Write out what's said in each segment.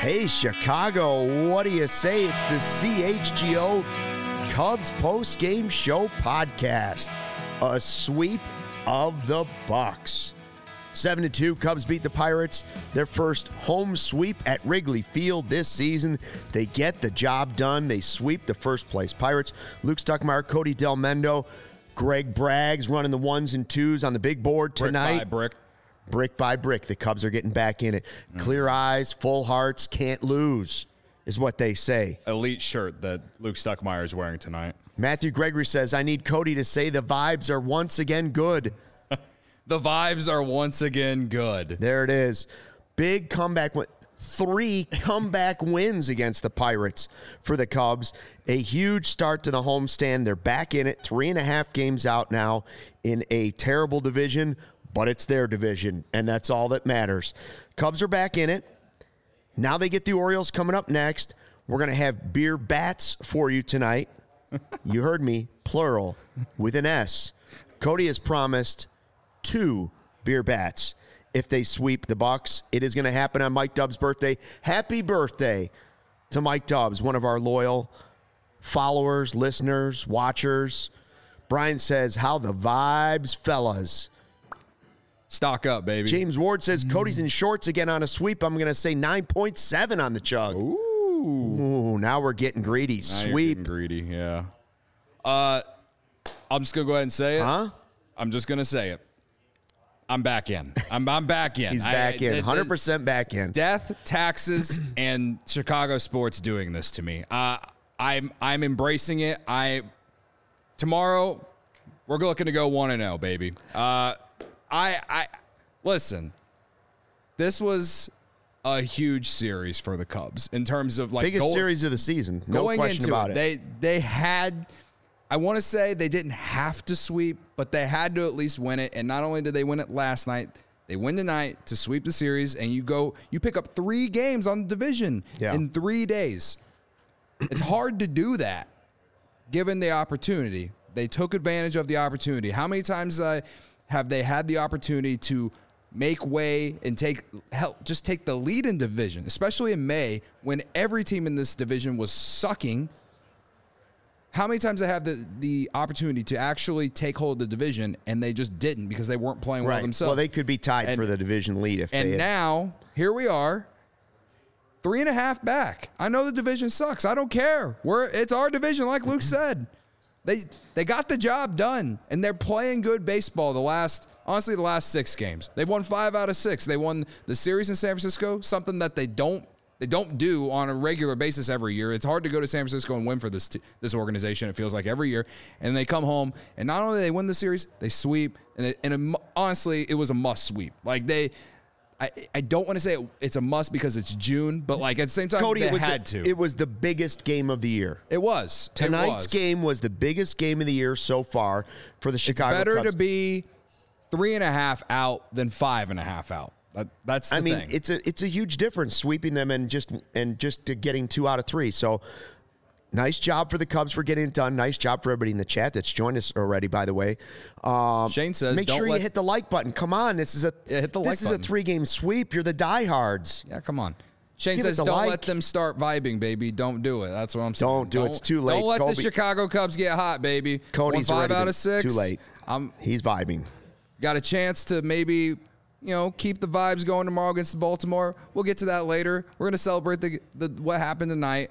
Hey, Chicago, what do you say? It's the CHGO Cubs post-game show podcast. A sweep of the Bucks. 7-2, Cubs beat the Pirates. Their first home sweep at Wrigley Field this season. They get the job done. They sweep the first-place Pirates. Luke Stuckmeyer, Cody Del Mendo, Greg Braggs running the ones and twos on the big board tonight. Brick by brick. Brick by brick, the Cubs are getting back in it. Clear eyes, full hearts, can't lose, is what they say. Elite shirt that Luke Stuckmeyer is wearing tonight. Matthew Gregory says, I need Cody to say the vibes are once again good. The vibes are once again good. There it is. Big comeback. 3 comeback wins against the Pirates for the Cubs. A huge start to the homestand. They're back in it. 3.5 games out now in a terrible division, but it's their division, and that's all that matters. Cubs are back in it. Now they get the Orioles coming up next. We're going to have beer bats for you tonight. You heard me, plural, with an S. Cody has promised 2 beer bats if they sweep the Bucks. It is going to happen on Mike Dubbs' birthday. Happy birthday to Mike Dubbs, one of our loyal followers, listeners, watchers. Brian says, how the vibes, fellas. Stock up, baby. James Ward says, Cody's in shorts again on a sweep. I'm going to say 9.7 on the chug. Ooh, now we're getting greedy. Now Sweep. you're getting greedy, yeah. I'm just going to go ahead and say it. Huh? I'm just going to say it. I'm back in. I'm back in. He's back in. 100% back in. Death, taxes, and Chicago sports doing this to me. I'm embracing it. Tomorrow, we're looking to go 1-0, baby. Listen. This was a huge series for the Cubs in terms of biggest series of the season. No question about it. They had. I want to say they didn't have to sweep, but they had to at least win it. And not only did they win it last night, they win tonight to sweep the series. And you pick up 3 games on the division in 3 days. It's hard to do that, given the opportunity. They took advantage of the opportunity. How many times have they had the opportunity to make way and take the lead in division, especially in May when every team in this division was sucking? How many times they have the opportunity to actually take hold of the division and they just didn't because they weren't playing well themselves? Well, they could be tied for the division lead if they had. Now, here we are, 3.5 back. I know the division sucks. I don't care. It's our division, like Luke said. They got the job done, and they're playing good baseball the last 6 games. They've won 5 out of 6. They won the series in San Francisco, something that they don't do on a regular basis every year. It's hard to go to San Francisco and win for this organization, it feels like, every year. And they come home, and not only do they win the series, they sweep. And honestly, it was a must sweep. Like, I don't want to say it's a must because it's June, but like at the same time, Cody, they had to. It was the biggest game of the year. It was. Tonight's game was the biggest game of the year so far for the Chicago Cubs. It's better to be 3.5 out than 5.5 out. That's the thing. It's a huge difference sweeping them and just getting 2 out of 3. So nice job for the Cubs for getting it done. Nice job for everybody in the chat that's joined us already, by the way. Shane says, make sure you hit the like button. Come on. This is a 3-game sweep. You're the diehards. Yeah, come on. Shane says, don't let them start vibing, baby. Don't do it. That's what I'm saying. Don't do it. It's too late. Don't let the Chicago Cubs get hot, baby. Cody's 5 out of 6. Too late. He's vibing. Got a chance to maybe keep the vibes going tomorrow against Baltimore. We'll get to that later. We're going to celebrate what happened tonight.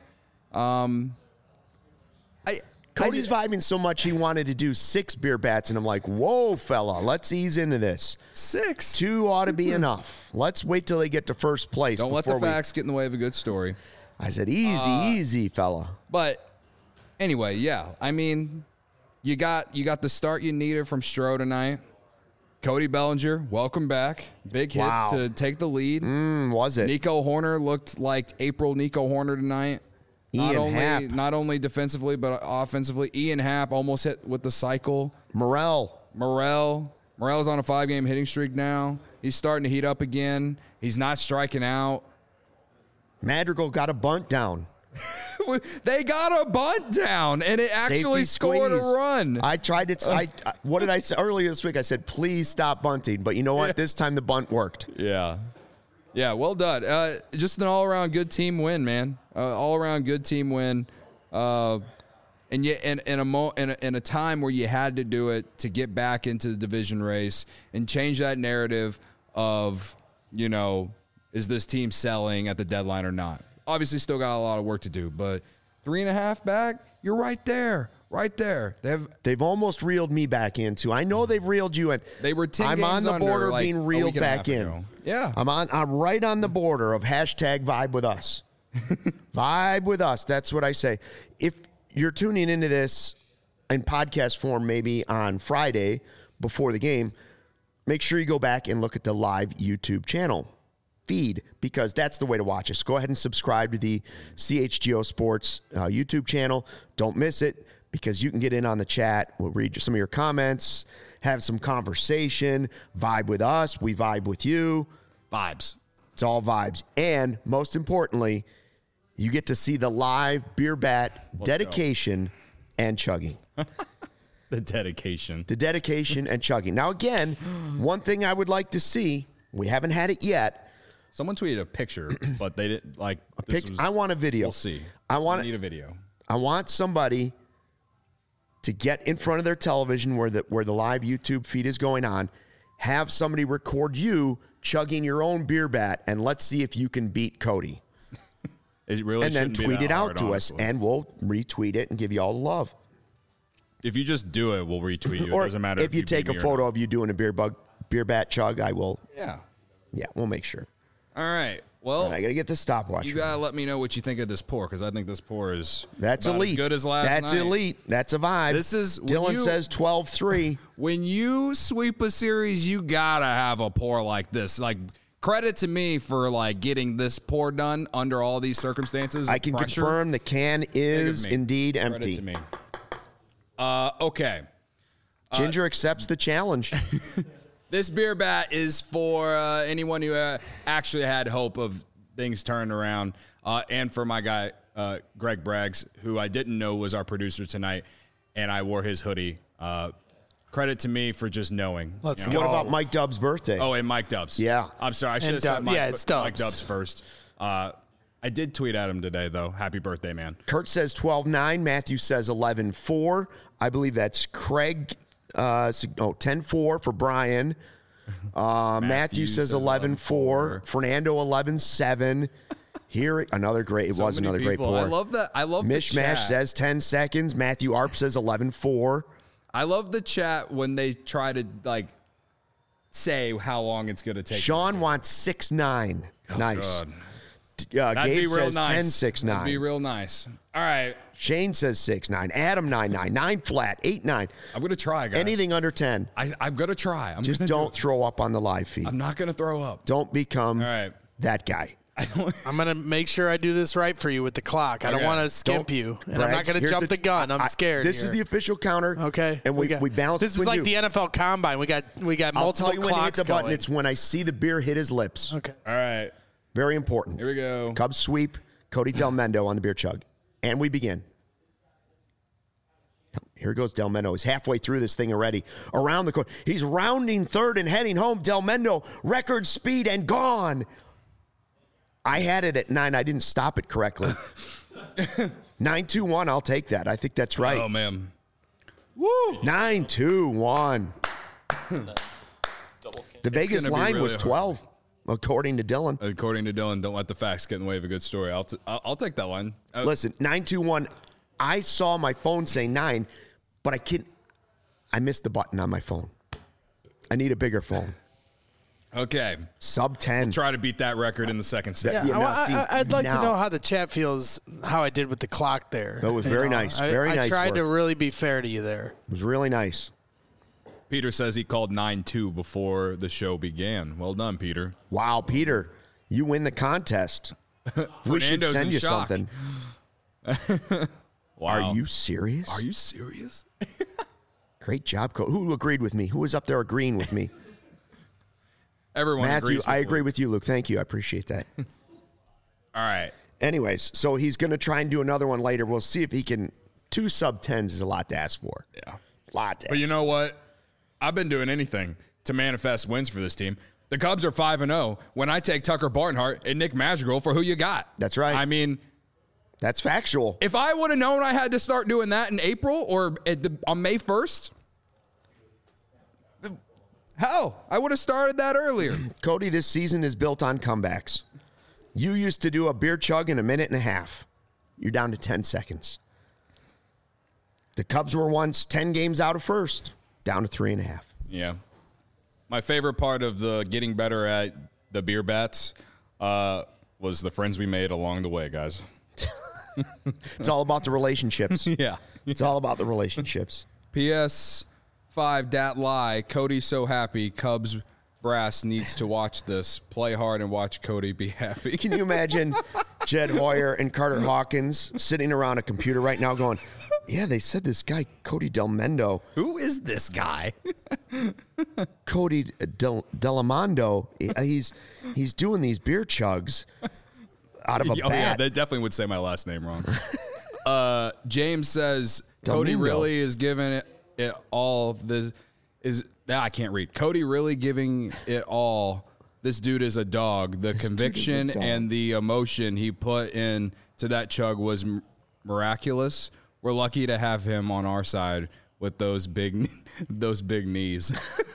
Cody's vibing so much he wanted to do 6 beer bats, and I'm like, whoa, fella, let's ease into this. 6? 2 ought to be enough. Let's wait till they get to first place. Don't let the facts get in the way of a good story. I said, easy, fella. But anyway, yeah. I mean, you got the start you needed from Stroh tonight. Cody Bellinger, welcome back. Big hit to take the lead. Was it? Nico Hoerner looked like April Nico Hoerner tonight. Not only defensively, but offensively. Ian Happ almost hit with the cycle. Morel's on a 5-game hitting streak now. He's starting to heat up again. He's not striking out. Madrigal got a bunt down. They got a bunt down, and it actually scored a run. I tried it. What did I say earlier this week? I said, please stop bunting. But you know what? This time the bunt worked. Yeah. Yeah, well done. Just an all-around good team win, man. All-around good team win. And yet, in a time where you had to do it to get back into the division race and change that narrative of, is this team selling at the deadline or not? Obviously, still got a lot of work to do, but 3.5 back, you're right there. Right there. They've almost reeled me back into. I know they've reeled you in. They were 10 I'm games on the border of like being reeled back in. Ago. Yeah. I'm right on the border of hashtag vibe with us. Vibe with us. That's what I say. If you're tuning into this in podcast form, maybe on Friday before the game, make sure you go back and look at the live YouTube channel feed, because that's the way to watch us. Go ahead and subscribe to the CHGO Sports YouTube channel. Don't miss it, because you can get in on the chat. We'll read some of your comments, have some conversation, vibe with us. We vibe with you. Vibes. It's all vibes. And most importantly, you get to see the live beer bat dedication and chugging. The dedication. The dedication and chugging. Now, again, one thing I would like to see, we haven't had it yet. Someone tweeted a picture, but they didn't like I want a video. We'll see. I need a video. I want somebody to get in front of their television where the live YouTube feed is going on, have somebody record you chugging your own beer bat, and let's see if you can beat Cody. It really and then shouldn't be tweet that it hard, out to honestly. us, and we'll retweet it and give you all the love. If you just do it, we'll retweet you. Or it doesn't matter if you take a beat me or photo not. of you doing a beer bat chug, I will. Yeah. Yeah, we'll make sure. All right. Well, I got to get the stopwatch. you got to let me know what you think of this pour, because I think this pour is That's about elite. as good as last That's night. elite. That's a vibe. This is Dylan says 12-3. When you sweep a series, you got to have a pour like this. Like, credit to me for, like, getting this pour done under all these circumstances. I can pressure. confirm the can is me. indeed Credit empty. to me. Okay. Ginger accepts the challenge. This beer bat is for anyone who actually had hope of things turning around, and for my guy, Greg Braggs, who I didn't know was our producer tonight, and I wore his hoodie. Credit to me for just knowing. Let's What go. about Mike Dub's birthday? Oh, and Mike Dubs. Yeah. I'm sorry. I should have And said Dub- Mike, yeah, it's Mike Dubs. Dubs first. I did tweet at him today, though. Happy birthday, man. Kurt says 12-9. Matthew says 11-4. I believe that's Craig. 10-4 for Brian. Matthew says 11-4. Fernando 11-7. Here, another great. It was many another great people. pour. I love that. I love the Mishmash chat. says 10 seconds. Matthew Arp says 11-4. I love the chat when they try to like say how long it's going to take. Sean wants 6-9. Nice. God. Gabe be real says nice. 10-6-9. That'd be real nice. All right. Shane says 6-9. Adam 9-9. 9 flat. 8-9. I'm going to try, guys. Anything under 10. I'm going to try. Just don't throw up on the live feed. I'm not going to throw up. Don't become All right. that guy. I'm going to make sure I do this right for you with the clock. I don't Okay. want to skimp Don't- you. And I'm not Braggs, going to here's jump the gun. I'm scared. This is the official counter. Okay. And we balance This is between like you. the NFL Combine. We got I'll multiple tell you when to hit clocks the button. going. It's when I see the beer hit his lips. Okay. All right. Very important. Here we go. Cubs sweep. Cody Del Mendo on the beer chug. And we begin. Here goes Del Mendo. He's halfway through this thing already. Around the corner. He's rounding third and heading home. Del Mendo, record speed and gone. I had it at 9. I didn't stop it correctly. 9-2-1. I'll take that. I think that's right. Oh, man. Woo! 9-2-1. The Vegas gonna be line really was hard. 12, according to Dylan. According to Dylan, don't let the facts get in the way of a good story. I'll take that one. Listen, 9-2-1. I saw my phone say 9, but I missed the button on my phone. I need a bigger phone. Okay. Sub 10. Try to beat that record in the second set. Yeah, Yeah, now, see, I'd like to now- know how the chat feels, how I did with the clock there. That was very nice. Very I nice tried work. to really be fair to you there. It was really nice. Peter says he called 9-2 before the show began. Well done, Peter. Wow, Peter, you win the contest. We should Fernando's send in you shock. something. Wow. Are you serious? Are you serious? Great job, Coach. Who agreed with me? Who was up there agreeing with me? Everyone Matthew, agrees with I agree Luke. with you, Luke. Thank you. I appreciate that. All right. Anyways, so he's going to try and do another one later. We'll see if he can. 2 sub 10s is a lot to ask for. Yeah. A lot to But you ask. know what? I've been doing anything to manifest wins for this team. The Cubs are 5-0 when I take Tucker Barnhart and Nick Madrigal for who you got. That's right. I mean, that's factual. if I would have known I had to start doing that in April or on May 1st, hell, I would have started that earlier. Cody, this season is built on comebacks. You used to do a beer chug in a minute and a half. You're down to 10 seconds. The Cubs were once 10 games out of first, down to 3.5. Yeah. My favorite part of the getting better at the beer bats was the friends we made along the way, guys. It's all about the relationships. Yeah. It's all about the relationships. PS5 dat lie. Cody's so happy. Cubs brass needs to watch this. Play hard and watch Cody be happy. Can you imagine Jed Hoyer and Carter Hawkins sitting around a computer right now going, yeah, they said this guy, Cody Delmendo. Who is this guy? Cody Delamondo, he's doing these beer chugs out of a Oh, bat. yeah, they definitely would say my last name wrong. James says Cody Delmendo. really is giving it all. I can't read. Cody really giving it all. This dude is a dog. The conviction dog. and the emotion he put in to that chug was miraculous. We're lucky to have him on our side with those big knees.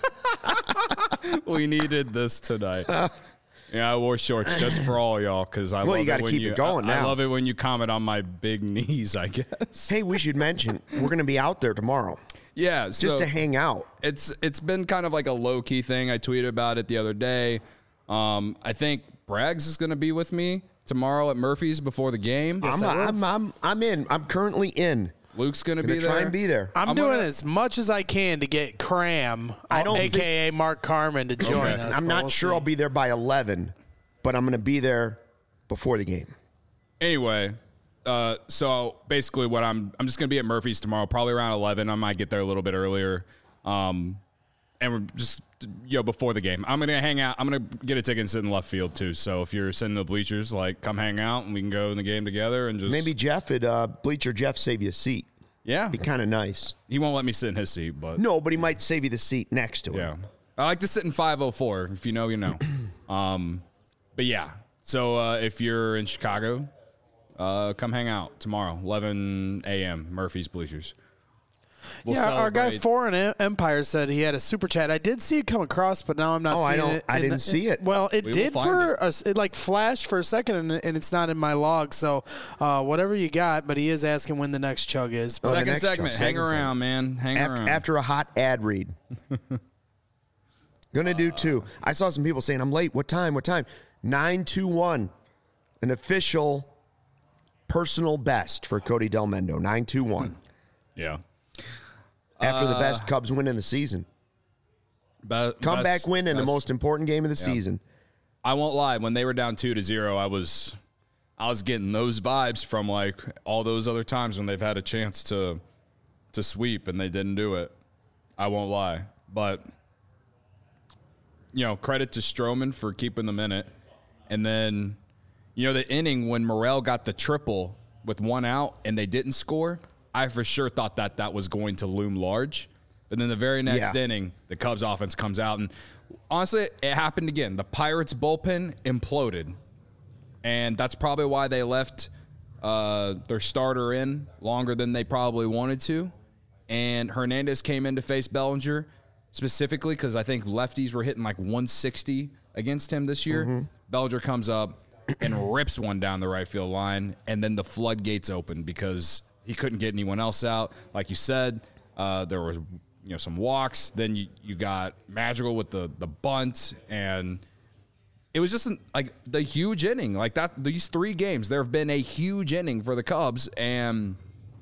We needed this tonight. Yeah, I wore shorts just for all y'all because I Well, love you gotta it when keep it going I now. love it when you comment on my big knees, I guess. Hey, we should mention, we're going to be out there tomorrow Yeah, just so to hang out. it's been kind of like a low key thing. I tweeted about it the other day. I think Braggs is going to be with me tomorrow at Murphy's before the game. I'm in. I'm currently in. Luke's going to Gonna be there. try and be there. I'm I'm doing gonna- as much as I can to get Cram, I don't a.k.a. Mark Carmen, to join Okay. us. I'm but not we'll sure see. I'll be there by 11, but I'm going to be there before the game. Anyway, so basically what I'm just going to be at Murphy's tomorrow, probably around 11. I might get there a little bit earlier. And we're just, before the game. I'm going to hang out. I'm going to get a ticket and sit in left field too. So if you're sitting in the bleachers, come hang out and we can go in the game together and just. Maybe Jeff at Bleacher Jeff save you a seat. Yeah. Be kind of nice. He won't let me sit in his seat, but. No, but he might save you the seat next to him. Yeah. I like to sit in 504. If you know, you know. But yeah. So if you're in Chicago, come hang out tomorrow, 11 a.m., Murphy's Bleachers. We'll Our guy celebrate. Foreign Empire said he had a super chat. I did see it come across, but now I'm not Oh, I seeing don't- it. I And didn't see it. Well, it We will did find for it. us. It flashed for a second, and it's not in my log. So whatever you got, but he is asking when the next chug is. the Second next segment. chunk, Hang second around, man. Hang around. After a hot ad read. Gonna do two. I saw some people saying, I'm late. What time? 9:21. An official personal best for Cody Delmendo. 9:21. Yeah. After the best Cubs win in the season. Comeback Best- win in the best- most important game of the season. I won't lie. When they were down 2-0, I was getting those vibes from all those other times when they've had a chance to sweep and they didn't do it. I won't lie, but credit to Stroman for keeping them in it, and then the inning when Morel got the triple with one out and they didn't score. I for sure thought that was going to loom large. And then the very next Yeah. inning, the Cubs offense comes out. And honestly, it happened again. The Pirates bullpen imploded. And that's probably why they left their starter in longer than they probably wanted to. And Hernandez came in to face Bellinger specifically because I think lefties were hitting 160 against him this year. Bellinger comes up and rips one down the right field line. And then the floodgates open because he couldn't get anyone else out. Like you said, there was some walks. Then you got Madrigal with the bunt, and it was just the huge inning. These 3 games, there have been a huge inning for the Cubs, and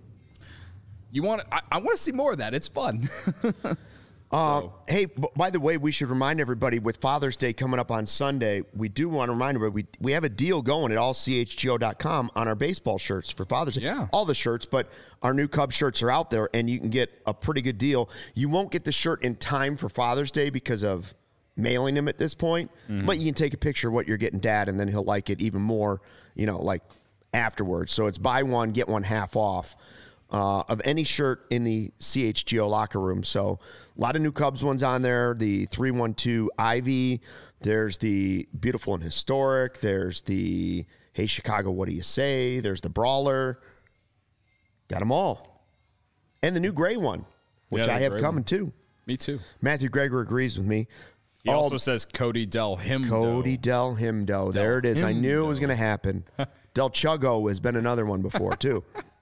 I want to see more of that. It's fun. Hey, by the way, we should remind everybody with Father's Day coming up on Sunday, we do want to remind everybody we have a deal going at allchgo.com on our baseball shirts for Father's Day. Yeah. All the shirts, but our new Cubs shirts are out there, and you can get a pretty good deal. You won't get the shirt in time for Father's Day because of mailing him at this point, but you can take a picture of what you're getting Dad, and then he'll like it even more, afterwards. So it's buy one, get one half off. of any shirt in the CHGO locker room. So a lot of new Cubs ones on there. The 312 Ivy. There's the Beautiful and Historic. There's the Hey Chicago, what do you say? There's the Brawler. Got them all. And the new gray one, which I have coming too. Me too. Matthew Greger agrees with me. He also says Cody Del Himdo. Cody Del Himdo. There it is. I knew it was going to happen. Del Chuggo has been another one before, too.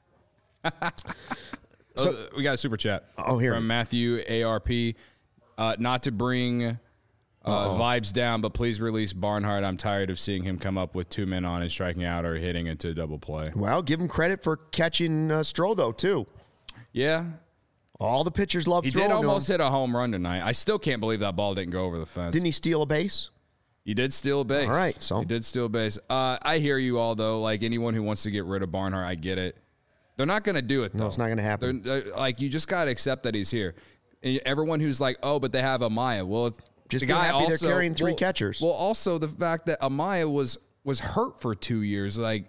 So we got a super chat from Matthew ARP. Not to bring vibes down, but please release Barnhart. I'm tired of seeing him come up with 2 men on and striking out or hitting into double play. Well, give him credit for catching Stroh, though, too. Yeah. All the pitchers love He throwing did almost to him. hit a home run tonight. I still can't believe that ball didn't go over the fence. Didn't he steal a base? He did steal a base. All right, so. He did steal a base. I hear you all, though. Like, anyone who wants to get rid of Barnhart, I get it. They're not going to do it, though. No, it's not going to happen. Like, you just got to accept that he's here. And everyone who's like, oh, but they have Amaya. Well, just the be guy happy also, they're carrying 3 catchers. Well, also the fact that Amaya was hurt for 2 years. Like,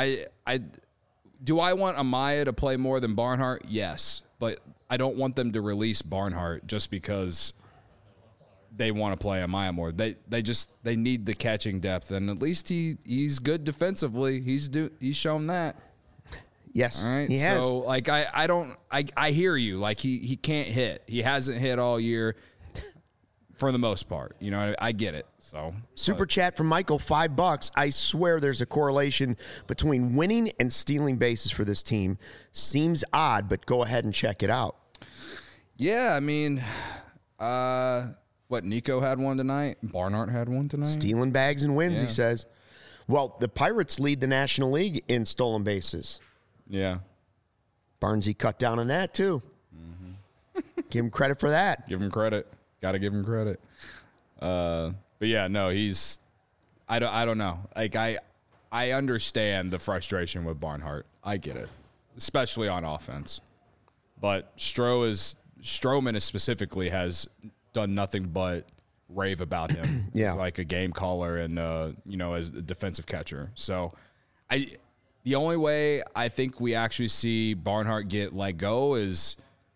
do I want Amaya to play more than Barnhart? Yes, but I don't want them to release Barnhart just because they want to play Amaya more. They need the catching depth, and at least he's good defensively. He's shown that. Yes, all right. He has. So like I hear you. Like he can't hit. He hasn't hit all year for the most part. You know, I get it. So super chat from Michael, $5. I swear there's a correlation between winning and stealing bases for this team. Seems odd, but go ahead and check it out. Yeah, I mean, what, Nico had one tonight? Barnhart had one tonight? Stealing bags and wins, Yeah. he says. Well, the Pirates lead the National League in stolen bases. yeah. Barnesy cut down on that, too. Mm-hmm. Give him credit for that. Give him credit. Got to give him credit. But yeah, no, I don't know. Like I understand the frustration with Barnhart. I get it, especially on offense. But Stroman specifically has done nothing but rave about him. Yeah. He's like a game caller and as a defensive catcher. So the only way I think we actually see Barnhart get let go is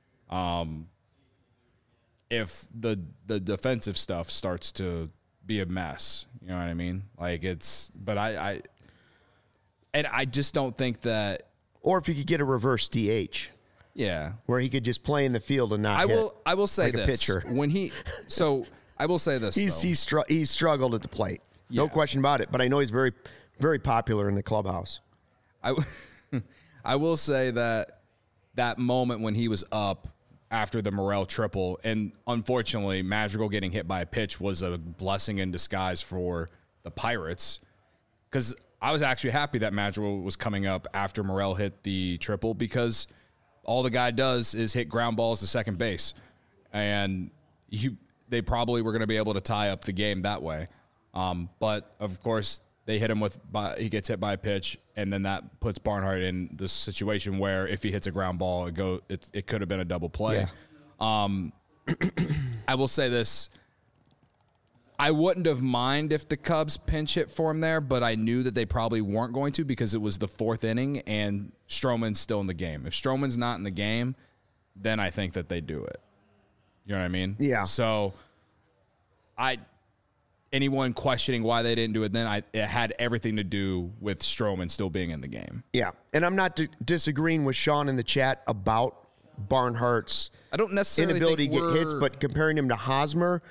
if the defensive stuff starts to be a mess. You know what I mean? Like but I just don't think that. Or if you could get a reverse DH. Yeah. Where he could just play in the field and not I will say like this. a pitcher. I will say this. He's struggled at the plate. No question about it. But I know he's very, very popular in the clubhouse. I will say that moment when he was up after the Morel triple, and unfortunately Madrigal getting hit by a pitch was a blessing in disguise for the Pirates, because I was actually happy that Madrigal was coming up after Morel hit the triple, because all the guy does is hit ground balls to second base, and they probably were going to be able to tie up the game that way. But of course they hit him he gets hit by a pitch, and then that puts Barnhart in this situation where if he hits a ground ball, it could have been a double play. Yeah. I will say this. I wouldn't have minded if the Cubs pinch hit for him there, but I knew that they probably weren't going to, because it was the 4th inning and Stroman's still in the game. If Stroman's not in the game, then I think that they do it. You know what I mean? Yeah. So anyone questioning why they didn't do it then, it had everything to do with Stroman still being in the game. Yeah. And I'm not disagreeing with Sean in the chat about Barnhart's I don't necessarily inability think to get hits, but comparing him to Hosmer,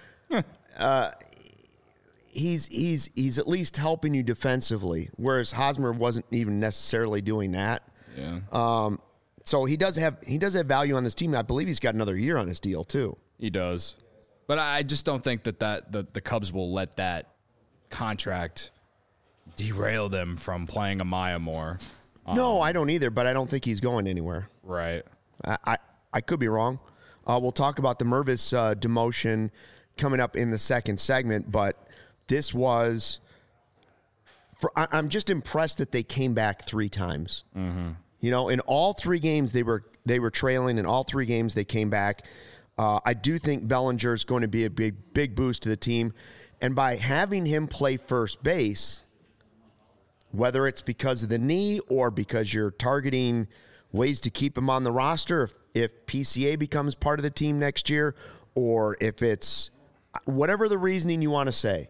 he's at least helping you defensively, whereas Hosmer wasn't even necessarily doing that. Yeah. So he does have value on this team. I believe he's got another year on his deal too. He does. But I just don't think that the Cubs will let that contract derail them from playing Amaya more. No, I don't either, but I don't think he's going anywhere. Right. I could be wrong. We'll talk about the Mervis demotion coming up in the second segment, but this was I'm just impressed that they came back 3 times. Mm-hmm. You know, in all 3 games they were trailing. In all 3 games they came back. I do think Bellinger is going to be a big boost to the team, and by having him play first base, whether it's because of the knee or because you're targeting ways to keep him on the roster if PCA becomes part of the team next year, or if it's whatever the reasoning you want to say.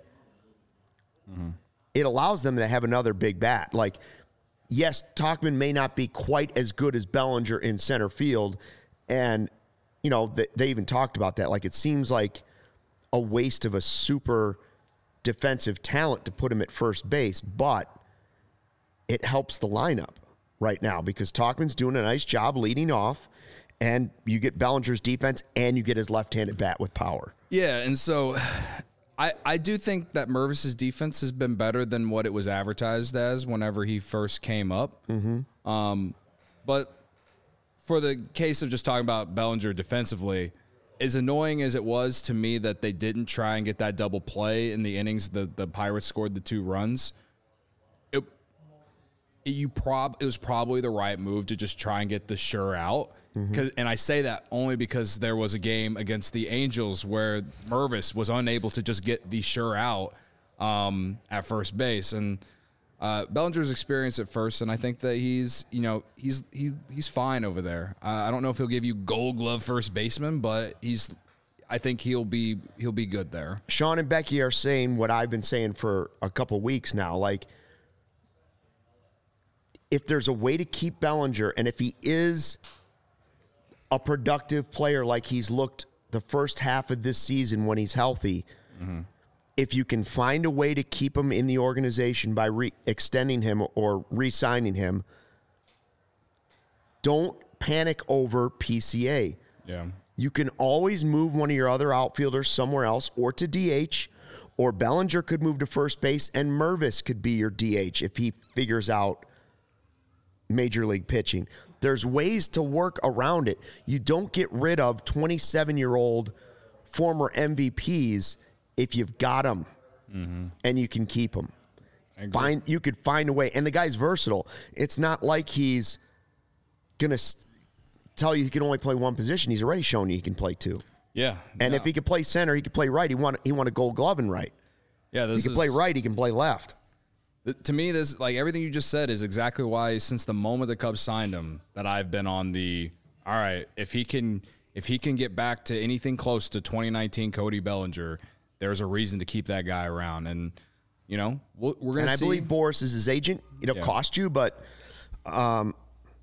It allows them to have another big bat. Like, yes, Tauchman may not be quite as good as Bellinger in center field, and they even talked about that. Like, it seems like a waste of a super defensive talent to put him at first base, but it helps the lineup right now because Tauchman's doing a nice job leading off, and you get Bellinger's defense and you get his left-handed bat with power. Yeah, and so I do think that Mervis's defense has been better than what it was advertised as whenever he first came up. But for the case of just talking about Bellinger defensively, as annoying as it was to me that they didn't try and get that double play in the innings the Pirates scored the 2 runs, it was probably the right move to just try and get the sure out. And I say that only because there was a game against the Angels where Mervis was unable to just get the sure out at first base. And Bellinger's experienced at first, and I think that he's fine over there. I don't know if he'll give you Gold Glove first baseman, but I think he'll be good there. Sean and Becky are saying what I've been saying for a couple weeks now. Like, if there's a way to keep Bellinger, and if he is a productive player like he's looked the first half of this season when he's healthy, if you can find a way to keep him in the organization by extending him or re-signing him, don't panic over PCA. Yeah. You can always move one of your other outfielders somewhere else or to DH, or Bellinger could move to first base and Mervis could be your DH if he figures out major league pitching. There's ways to work around it. You don't get rid of 27-year-old former MVPs if you've got them and you can keep them. You could find a way. And the guy's versatile. It's not like he's going to tell you he can only play one position. He's already shown you he can play 2. Yeah. And if he could play center, he could play right. He won a Gold Glove in right. Yeah, he can play right. He can play left. To me, this, like, everything you just said is exactly why, since the moment the Cubs signed him, that I've been on the, all right, if he can get back to anything close to 2019 Cody Bellinger, there's a reason to keep that guy around. And, we're going to see. And I believe Boris is his agent. It'll cost you, but, man,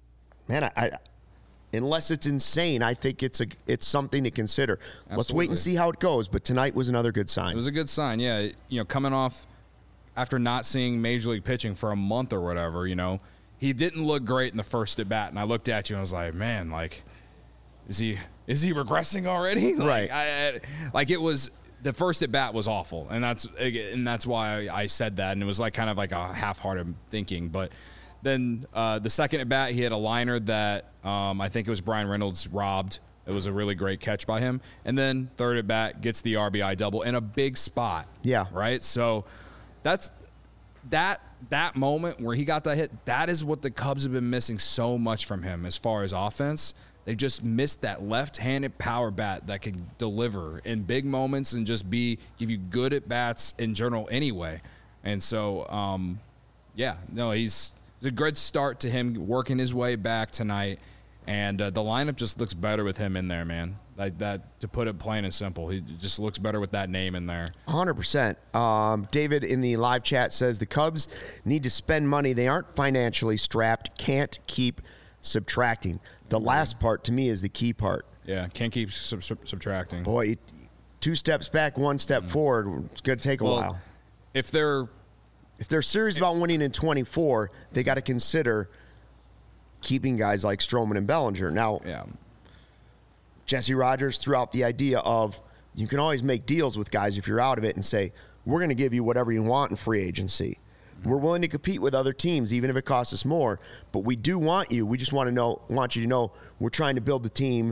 I unless it's insane, I think it's something to consider. Absolutely. Let's wait and see how it goes. But tonight was another good sign. It was a good sign, yeah. Coming off after not seeing Major League pitching for a month or whatever, he didn't look great in the first at bat. And I looked at you and I was like, man, like, is he regressing already? Right. It was, the first at bat was awful. And that's why I said that. And it was like kind of like a half-hearted thinking. But then the second at bat, he had a liner that I think it was Brian Reynolds robbed. It was a really great catch by him. And then third at bat gets the RBI double in a big spot. Yeah. Right. So that's that moment where he got that hit. That is what the Cubs have been missing so much from him as far as offense. They just missed that left-handed power bat that can deliver in big moments and just give you good at bats in general anyway. And so, it's a good start to him working his way back tonight. And the lineup just looks better with him in there, man. Like that, to put it plain and simple. He just looks better with that name in there. 100%. David in the live chat says the Cubs need to spend money. They aren't financially strapped, can't keep subtracting. The last part, to me, is the key part. Yeah, can't keep subtracting. Boy, 2 steps back, 1 step forward. It's going to take a while. If they're serious about winning in 24, they got to consider keeping guys like Stroman and Bellinger. Now, Jesse Rogers threw out the idea of you can always make deals with guys if you're out of it and say, we're going to give you whatever you want in free agency. We're willing to compete with other teams, even if it costs us more. But we do want you. We just want you to know we're trying to build the team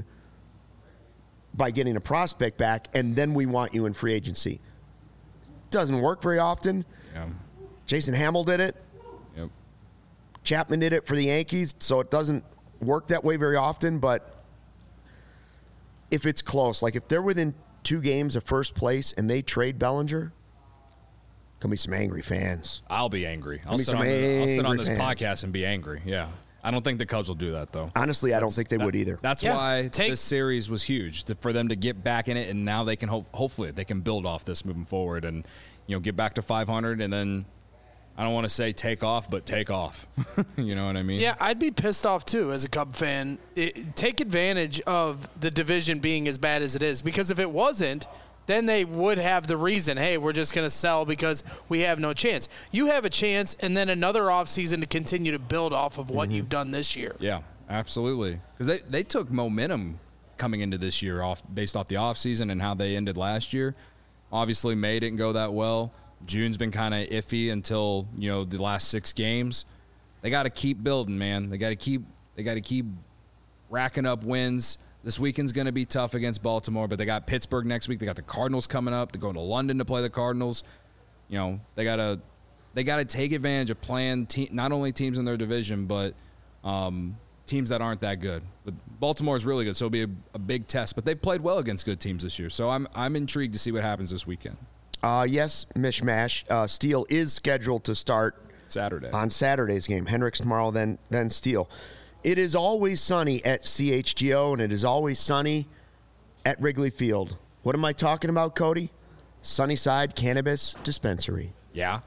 by getting a prospect back, and then we want you in free agency. Doesn't work very often. Yeah. Jason Hamill did it. Yep. Chapman did it for the Yankees, so it doesn't work that way very often. But if it's close, like if they're within 2 games of first place and they trade Bellinger, gonna be some angry fans. I'll be angry. I'll sit on this podcast and be angry. Yeah. I don't think the Cubs will do that, though. Honestly, I don't think they would either. That's why this series was huge, for them to get back in it, and now they can hopefully they can build off this moving forward and get back to 500, and then I don't want to say take off, but take off. You know what I mean? Yeah, I'd be pissed off too as a Cub fan. Take advantage of the division being as bad as it is, because if it wasn't, then they would have the reason, hey, we're just going to sell because we have no chance. You have a chance and then another offseason to continue to build off of what you've done this year. Yeah, absolutely. Because they took momentum coming into this year based off the offseason and how they ended last year. Obviously, May didn't go that well. June's been kind of iffy until, the last 6 games. They got to keep building, man. They got to keep racking up wins. This weekend's going to be tough against Baltimore, but they got Pittsburgh next week. They got the Cardinals coming up. They're going to London to play the Cardinals. They got to take advantage of playing not only teams in their division, but teams that aren't that good. But Baltimore is really good, so it'll be a big test. But they've played well against good teams this year, so I'm intrigued to see what happens this weekend. Yes, Mishmash. Steele is scheduled to start Saturday on Saturday's game. Hendricks tomorrow, then Steele. It is always sunny at CHGO, and it is always sunny at Wrigley Field. What am I talking about, Cody? Sunnyside Cannabis Dispensary. Yeah.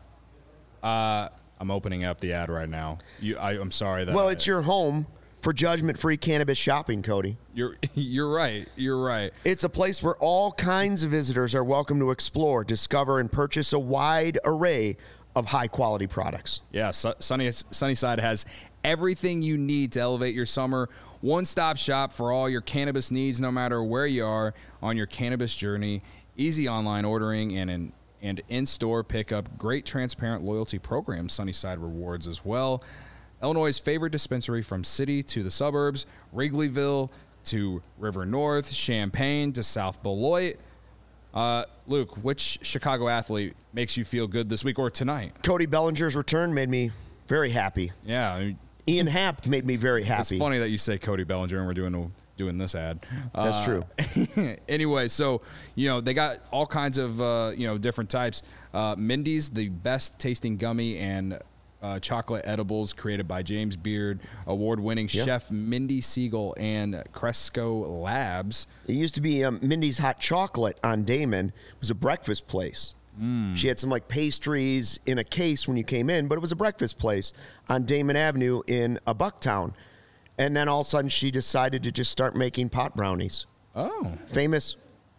I'm opening up the ad right now. I'm sorry that. Well, it's your home for judgment-free cannabis shopping, Cody. You're right. You're right. It's a place where all kinds of visitors are welcome to explore, discover, and purchase a wide array of high-quality products. Yeah, Sunnyside has everything you need to elevate your summer. One-stop shop for all your cannabis needs, no matter where you are on your cannabis journey. Easy online ordering and in-store pickup. Great transparent loyalty program, Sunnyside Rewards as well. Illinois' favorite dispensary from city to the suburbs, Wrigleyville to River North, Champaign to South Beloit. Luke, which Chicago athlete makes you feel good this week or tonight? Cody Bellinger's return made me very happy. Yeah. Ian Happ made me very happy. It's funny that you say Cody Bellinger and we're doing this ad. That's true. Anyway, so, they got all kinds of, different types. Mindy's, the best tasting gummy and chocolate edibles created by James Beard, award-winning chef Mindy Siegel and Cresco Labs. It used to be Mindy's Hot Chocolate on Damon. It was a breakfast place. She had some pastries in a case when you came in, but it was a breakfast place on Damon Avenue in Bucktown. And then all of a sudden she decided to just start making pot brownies. Oh. Famous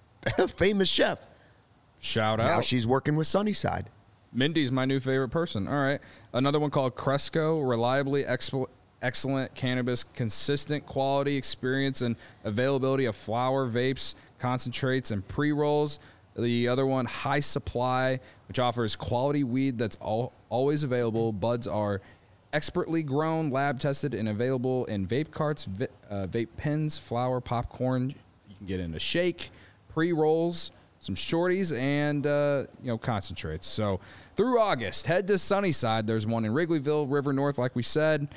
chef. Shout out. Now she's working with Sunnyside. Mindy's my new favorite person. All right. Another one called Cresco, reliably excellent cannabis, consistent quality, experience, and availability of flower, vapes, concentrates, and pre-rolls. The other one, High Supply, which offers quality weed that's always available. Buds are expertly grown, lab tested, and available in vape carts, vape pens, flour, popcorn. You can get in a shake, pre-rolls, some shorties, and concentrates. So through August, head to Sunnyside. There's one in Wrigleyville, River North, like we said.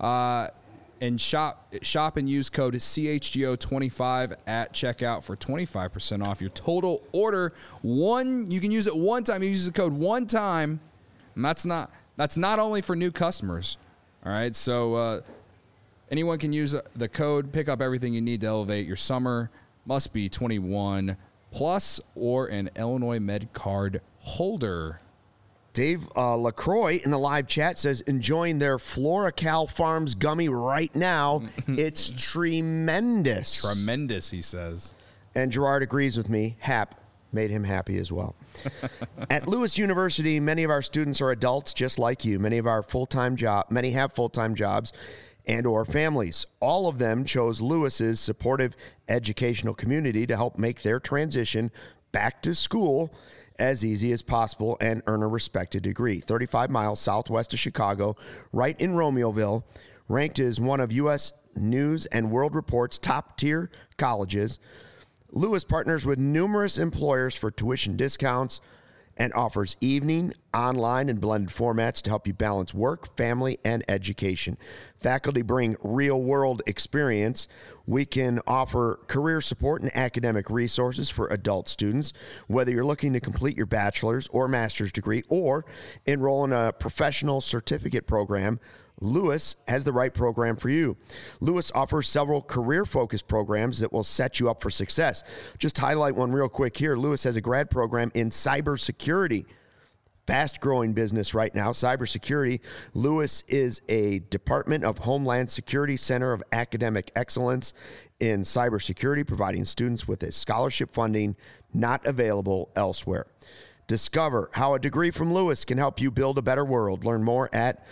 And shop and use code CHGO25 at checkout for 25% off your total order. You can use it one time. You use the code one time, and that's not only for new customers. All right, so anyone can use the code. Pick up everything you need to elevate your summer. Must be 21 plus or an Illinois Med card holder. Dave LaCroix in the live chat says, enjoying their FloraCal Farms gummy right now. It's tremendous. Tremendous, he says. And Gerard agrees with me. Hap made him happy as well. At Lewis University, many of our students are adults just like you. Many have full-time jobs and or families. All of them chose Lewis's supportive educational community to help make their transition back to school as easy as possible and earn a respected degree. 35 miles southwest of Chicago, right in Romeoville, ranked as one of U.S. News and World Report's top-tier colleges. Lewis partners with numerous employers for tuition discounts and offers evening, online, and blended formats to help you balance work, family, and education. Faculty bring real-world experience. We can offer career support and academic resources for adult students, whether you're looking to complete your bachelor's or master's degree or enroll in a professional certificate program. Lewis has the right program for you. Lewis offers several career-focused programs that will set you up for success. Just highlight one real quick here. Lewis has a grad program in cybersecurity. Fast-growing business right now, cybersecurity. Lewis is a Department of Homeland Security Center of Academic Excellence in cybersecurity, providing students with a scholarship funding not available elsewhere. Discover how a degree from Lewis can help you build a better world. Learn more at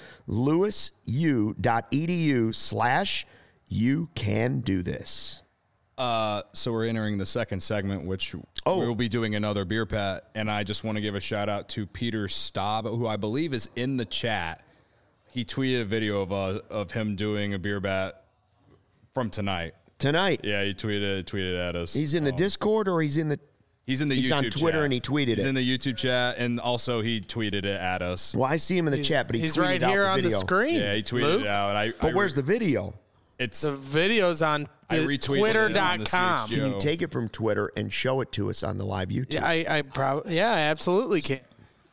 lewisu.edu/you-can-do-this. So we're entering the second segment, which we'll be doing another beer pat. And I just want to give a shout out to Peter Staub, who I believe is in the chat. He tweeted a video of him doing a beer bat from tonight. Tonight. Yeah, he tweeted at us. He's in the Discord or he's in the YouTube on Twitter chat. and he tweeted it. He's in the YouTube chat, and also he tweeted it at us. Well, I see him in the chat, but he's tweeted right out here the on the video. screen. Yeah, he tweeted Luke. it out. But where's the video? It's The video's on I retweeted it on the twitter.com. CHGO. Can you take it from Twitter and show it to us on the live YouTube? Yeah, I absolutely can.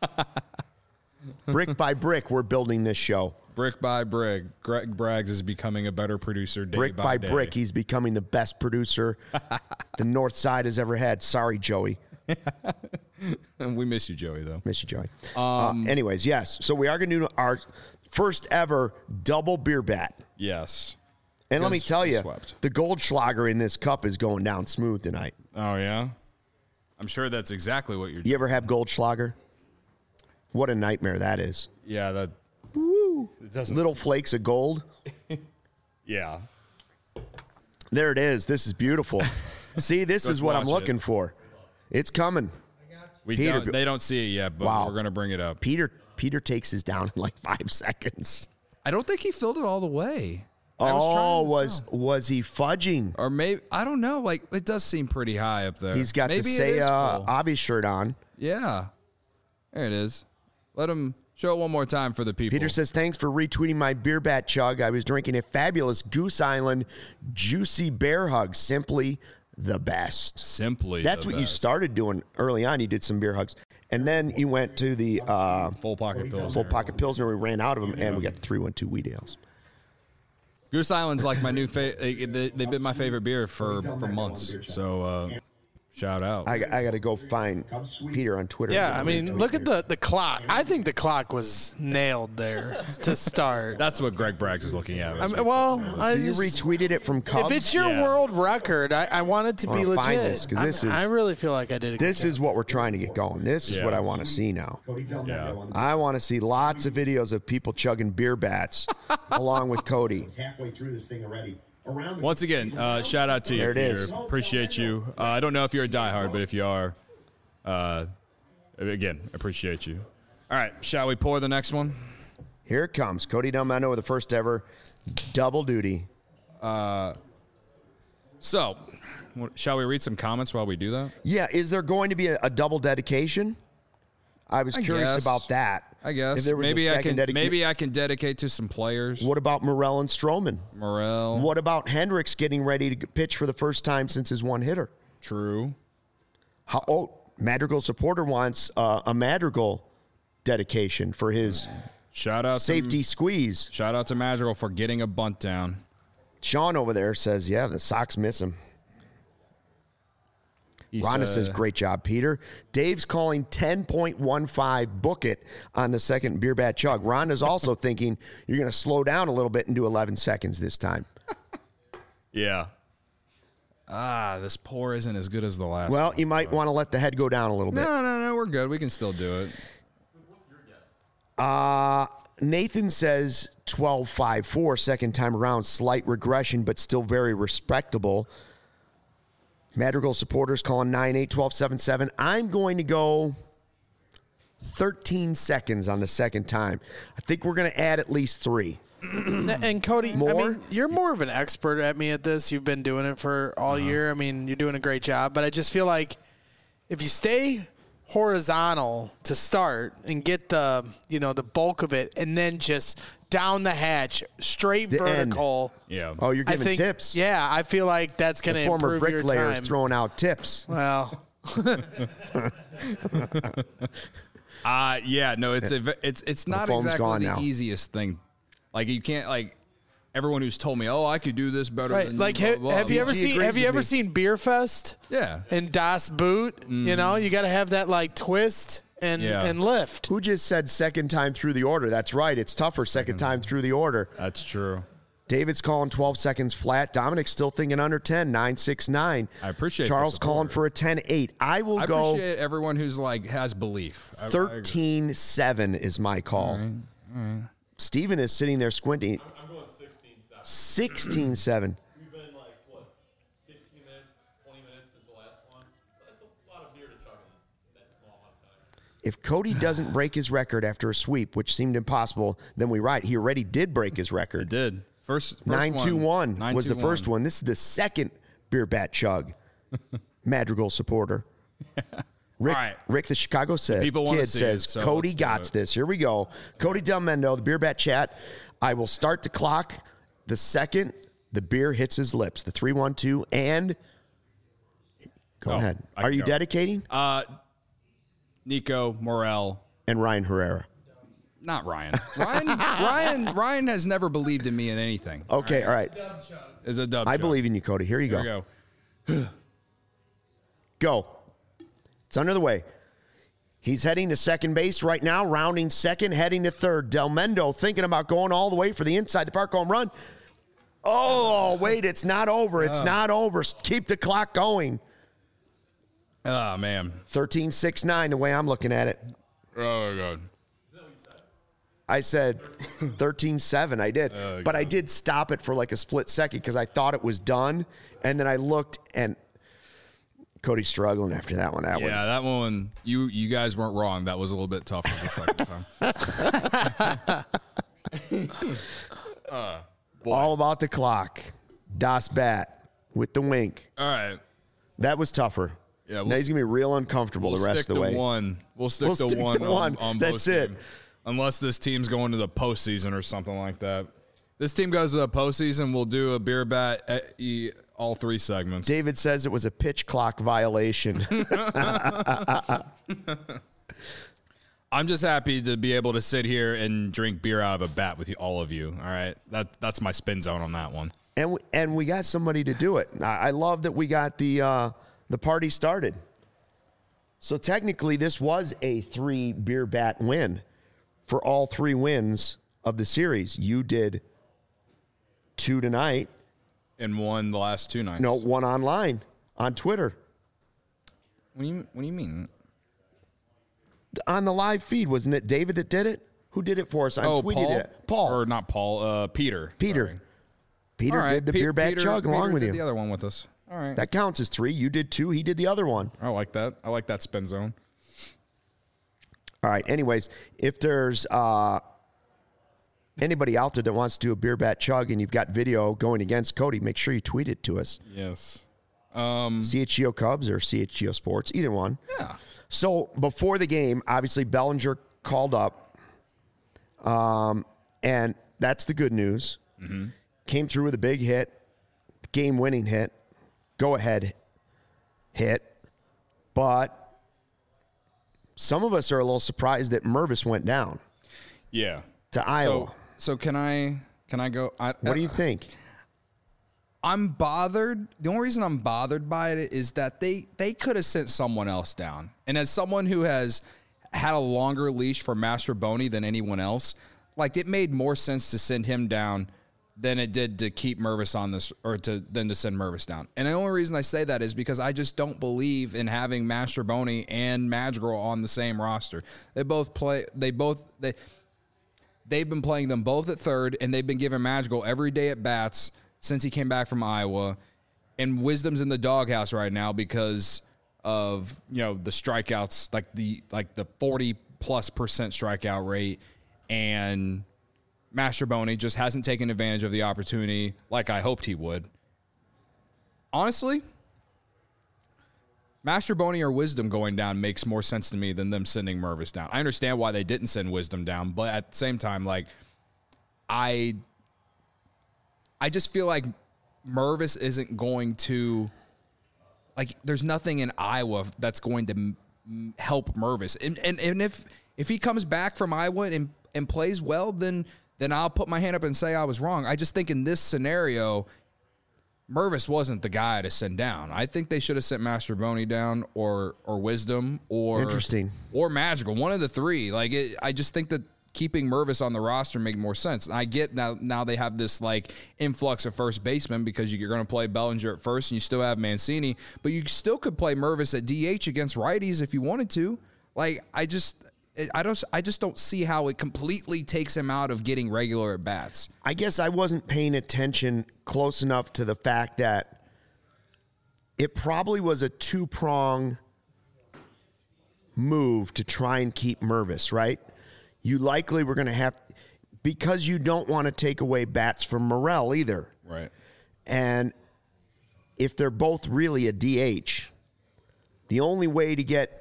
Brick by brick, we're building this show. brick by brick. Greg Braggs is becoming a better producer day Brick by day. brick, he's becoming the best producer the North Side has ever had. Sorry, Joey. And we miss you, Joey, though. Miss you, Joey. Anyways, yes. So we are going to do our first ever double beer bat. Yes. And let me Because tell we you, swept. the Goldschlager in this cup is going down smooth tonight. Oh, yeah? I'm sure that's exactly what you're doing. You ever have Goldschlager? What a nightmare that is. Yeah, that. It doesn't. Little flakes of gold. Yeah. There it is. This is beautiful. See, this Let's is what I'm watch it. looking for. It's coming. Peter- They don't see it yet, but Wow. we're going to bring it up. Peter takes his down in like 5 seconds. I don't think he filled it all the way. I was trying to Was he fudging? Or maybe, I don't know. Like, it does seem pretty high up there. He's got maybe the it Say is full. Obby shirt on. Yeah. There it is. Let him show it one more time for the people. Peter says, thanks for retweeting my beer bat chug. I was drinking a fabulous Goose Island Juicy Bear Hug. Simply the best. Simply. That's the what you best. started doing early on. You did some beer hugs. And then you went to the Full pocket pills. Full Pocket Pilsner. We ran out of them, and we got the 312 Wheat Ales. Goose Island's like my new favorite. They've been my favorite beer for months. So shout out. I got to go find Peter on Twitter. Yeah, I mean, look at the clock. I think the clock was nailed there to start. That's what Greg Braggs is looking at. I mean, well, I You just, retweeted it from Cubs. if it's your Yeah. world record, I want it to be wanna legit. find this, 'cause this is- I really feel like I did a good This job. is what we're trying to get going. This is Yeah. what I want to see now. Yeah. I want to see lots of videos of people chugging beer bats along with Cody. Halfway through this thing already. Around the Once again, shout out to you, There it Peter. is. Appreciate you. I don't know if you're a diehard, but if you are, again, appreciate you. All right, shall we pour the next one? Here it comes. Cody Delmeno with the first ever double duty. So, shall we read some comments while we do that? Yeah, is there going to be a double dedication? I was curious guess. about that. I guess. If there was Maybe a I second can. dedica- Maybe I can dedicate to some players. What about Morel and Stroman? Morel. What about Hendricks getting ready to pitch for the first time since his one hitter? True. Madrigal supporter wants a Madrigal dedication for his Shout out safety squeeze. Shout out to Madrigal for getting a bunt down. Sean over there says, yeah, the Sox miss him. He Rhonda said- says, great job, Peter. Dave's calling 10.15, book it on the second beer bat chug. Rhonda's also thinking you're going to slow down a little bit and do 11 seconds this time. Yeah. This pour isn't as good as the last Well, one. you might want to let the head go down a little bit. No, we're good. We can still do it. Nathan says 12.54, second time around, slight regression, but still very respectable. Madrigal supporters calling 9.8, 12.77. I'm going to go 13 seconds on the second time. I think we're going to add at least 3. And Cody, I More? mean, you're more of an expert at me at this. You've been doing it for all year. I mean, you're doing a great job. But I just feel like if you stay horizontal to start and get the bulk of it, and then just down the hatch, straight The end. vertical. Yeah. Oh, you're I giving think, tips. Yeah, I feel like that's going The to former improve your bricklayer is time. throwing out tips. Well, Yeah, no, it's not foam's exactly gone the now. easiest thing Like you can't like everyone who's told me, oh, I could do this better. Right. Than Like, you, blah, blah, have blah. you ever He seen? agrees Have you with ever me. seen Beer Fest? Yeah. And Das Boot. You know, you got to have that like twist and lift. Who just said second time through the order? That's right. It's tougher second time through the order. That's true. David's calling 12 seconds flat. Dominic's still thinking under 10, 9.69. I appreciate the Charles support. calling for a 10.8. I will I go appreciate everyone who's like has belief. 13.7 is my call. All right. Steven is sitting there squinting. I'm going 16-7. 16.7. We've been like, what, 15 minutes, 20 minutes since the last one? That's a lot of beer to chug in that small amount of time. If Cody doesn't break his record after a sweep, which seemed impossible, then we right. He already did break his record. It did. First 9-2-1 was the 9-2-1. first one. This is the second beer bat chug. Madrigal supporter. Rick, All right. Rick the Chicago People wanna kid see says, it, so Cody let's do got it. this. Here we go. Cody Del Mendo, the beer bat chat. I will start the clock the second the beer hits his lips. The 3-1-2 and go ahead. I Are can you go. dedicating? Nico, Morel, And Ryan Herrera. not Ryan. Ryan has never believed in me in anything. Okay, all right. Is a dub. I chug. believe in you, Cody. Here you Here go. we go. Go. It's under the way. He's heading to second base right now, rounding second, heading to third. Del Mendo thinking about going all the way for the inside the park home run. Oh, wait, it's not over. It's not over. Keep the clock going. Oh man. 13-6-9, the way I'm looking at it. Oh god. I said 13-7. I did. But I did stop it for like a split second because I thought it was done. And then I looked and Cody's struggling after that one. That was That one. You guys weren't wrong. That was a little bit tougher the second time. all about the clock. Das Bat with the wink. All right. That was tougher. Yeah, Now he's going to be real uncomfortable We'll the rest stick of the to way. one. We'll stick We'll to stick one. to one. On That's postgame. it. Unless this team's going to the postseason or something like that. This team goes to the postseason. We'll do a beer bat at all three segments. David says it was a pitch clock violation. I'm just happy to be able to sit here and drink beer out of a bat with all of you. All right, that's my spin zone on that one. and we got somebody to do it. I love that we got the party started. So technically, this was a 3 beer bat win for all 3 wins of the series. You did 2 tonight. And won the last 2 nights. No, 1 online on Twitter. What do you mean? On the live feed, wasn't it David that did it? Who did it for us? I tweeted Paul. it. Paul. Or not Paul. Peter. Peter. Sorry. Peter All right, did the beer bat chug along with did you. the other one with us. All right. That counts as 3. You did 2. He did the other one. I like that. I like that spin zone. All right. Anyways, if there's anybody out there that wants to do a beer bat chug and you've got video going against Cody, make sure you tweet it to us. Yes. CHGO Cubs or CHGO Sports, either one. Yeah. So before the game, obviously Bellinger called up, and that's the good news. Mm-hmm. Came through with a big hit, game-winning hit, go-ahead hit, but some of us are a little surprised that Mervis went down Yeah. to Iowa. So can I go? What do you think? I'm bothered. The only reason I'm bothered by it is that they could have sent someone else down. And as someone who has had a longer leash for Master Boney than anyone else, like it made more sense to send him down than it did to keep Mervis on this, than to send Mervis down. And the only reason I say that is because I just don't believe in having Master Boney and Madrigal on the same roster. They've been playing them both at third, and they've been giving Madrigal every day at bats since he came back from Iowa. And Wisdom's in the doghouse right now because of, the strikeouts, like the 40+% strikeout rate, and Master Boney just hasn't taken advantage of the opportunity like I hoped he would. Honestly, Master Boney or Wisdom going down makes more sense to me than them sending Mervis down. I understand why they didn't send Wisdom down, but at the same time, like, I just feel like Mervis isn't going to, like, there's nothing in Iowa that's going to help Mervis. And if he comes back from Iowa and plays well, then then I'll put my hand up and say I was wrong. I just think in this scenario, Mervis wasn't the guy to send down. I think they should have sent Mastrobuoni down or Wisdom or Interesting. or Magical, one of the three. Like I just think that keeping Mervis on the roster made more sense. And I get now they have this like influx of first baseman because you're going to play Bellinger at first and you still have Mancini, but you still could play Mervis at DH against righties if you wanted to. Like I just don't see how it completely takes him out of getting regular at bats. I guess I wasn't paying attention close enough to the fact that it probably was a two-prong move to try and keep Mervis, right? You likely were going to have, because you don't want to take away bats from Morel either. Right. And if they're both really a DH, the only way to get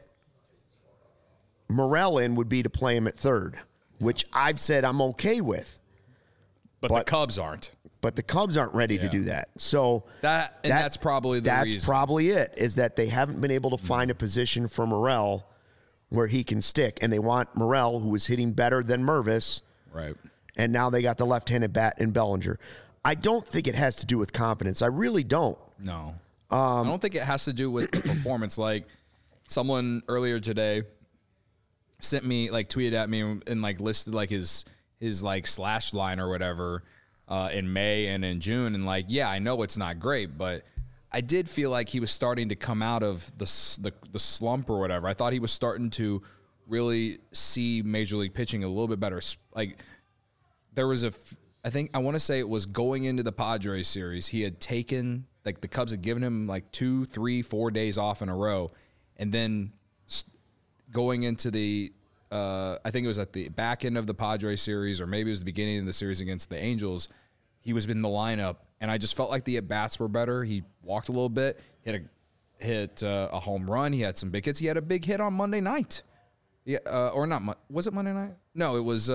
Morel in would be to play him at third, which I've said I'm okay with. But the Cubs aren't. But the Cubs aren't ready to do that. So that's probably the reason. That's probably it, is that they haven't been able to find a position for Morel where he can stick. And they want Morel, who was hitting better than Mervis. Right. And now they got the left-handed bat in Bellinger. I don't think it has to do with confidence. I really don't. No. I don't think it has to do with the performance. Like someone earlier today sent me, like tweeted at me and like listed like his like slash line or whatever in May and in June. And like, yeah, I know it's not great, but I did feel like he was starting to come out of the slump or whatever. I thought he was starting to really see Major League pitching a little bit better. Like there was I want to say it was going into the Padres series. He had taken, like the Cubs had given him like 2, 3, 4 days off in a row. And then going into the, I think it was at the back end of the Padres series, or maybe it was the beginning of the series against the Angels, he was in the lineup, and I just felt like the at-bats were better. He walked a little bit, hit a home run. He had some big hits. He had a big hit on Monday night. Yeah, or not. Was it Monday night? No, it was.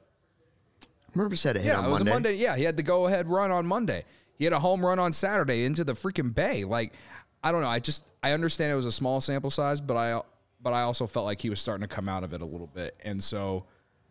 Mervis had a hit on Monday. Yeah, it was a Monday. Yeah, he had the go-ahead run on Monday. He had a home run on Saturday into the freaking Bay. Like, I don't know. I understand it was a small sample size, but I also felt like he was starting to come out of it a little bit. And so,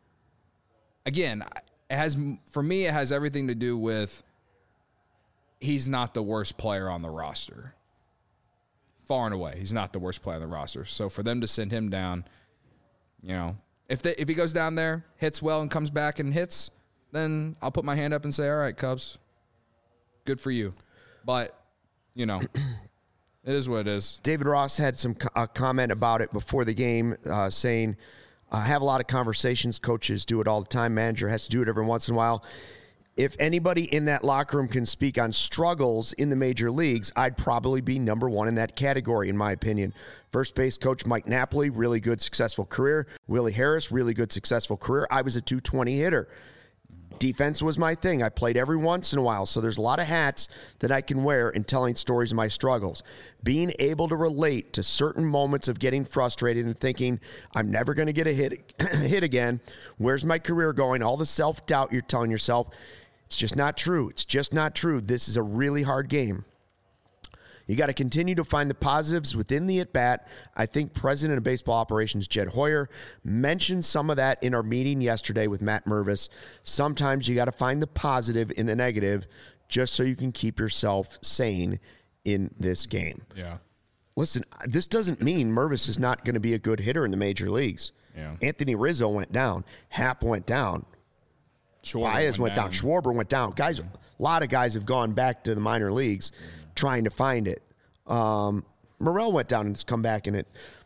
again, for me, it has everything to do with he's not the worst player on the roster. Far and away, he's not the worst player on the roster. So for them to send him down, you know, if he goes down there, hits well, and comes back and hits, then I'll put my hand up and say, all right, Cubs, good for you. But, you know, it is what it is. David Ross had a comment about it before the game, saying, I have a lot of conversations. Coaches do it all the time. Manager has to do it every once in a while. If anybody in that locker room can speak on struggles in the major leagues, I'd probably be number one in that category, in my opinion. First base coach Mike Napoli, really good, successful career. Willie Harris, really good, successful career. I was a 220 hitter. Defense was my thing. I played every once in a while, so there's a lot of hats that I can wear in telling stories of my struggles. Being able to relate to certain moments of getting frustrated and thinking, I'm never going to get a hit again. Where's my career going? All the self-doubt you're telling yourself, it's just not true. It's just not true. This is a really hard game. You got to continue to find the positives within the at-bat. I think President of Baseball Operations Jed Hoyer mentioned some of that in our meeting yesterday with Matt Mervis. Sometimes you got to find the positive in the negative just so you can keep yourself sane in this game. Yeah. Listen, this doesn't mean Mervis is not going to be a good hitter in the major leagues. Yeah. Anthony Rizzo went down. Happ went down. Baez went down. Schwarber went down. Guys, a lot of guys have gone back to the minor leagues trying to find it. Morel went down and has come back in it.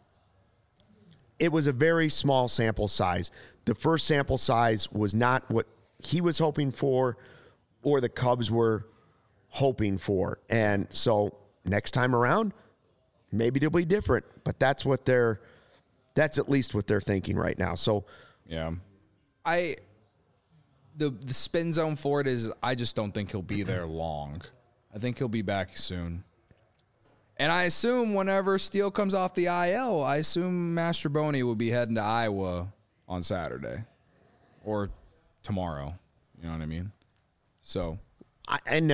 It was a very small sample size. The first sample size was not what he was hoping for or the Cubs were hoping for. And so next time around, maybe it'll be different. But that's at least what they're thinking right now. So yeah. The spin zone for it is I just don't think he'll be there long. I think he'll be back soon. And I assume whenever Steele comes off the IL, I assume Mastrobuoni will be heading to Iowa on Saturday or tomorrow. You know what I mean? So I'm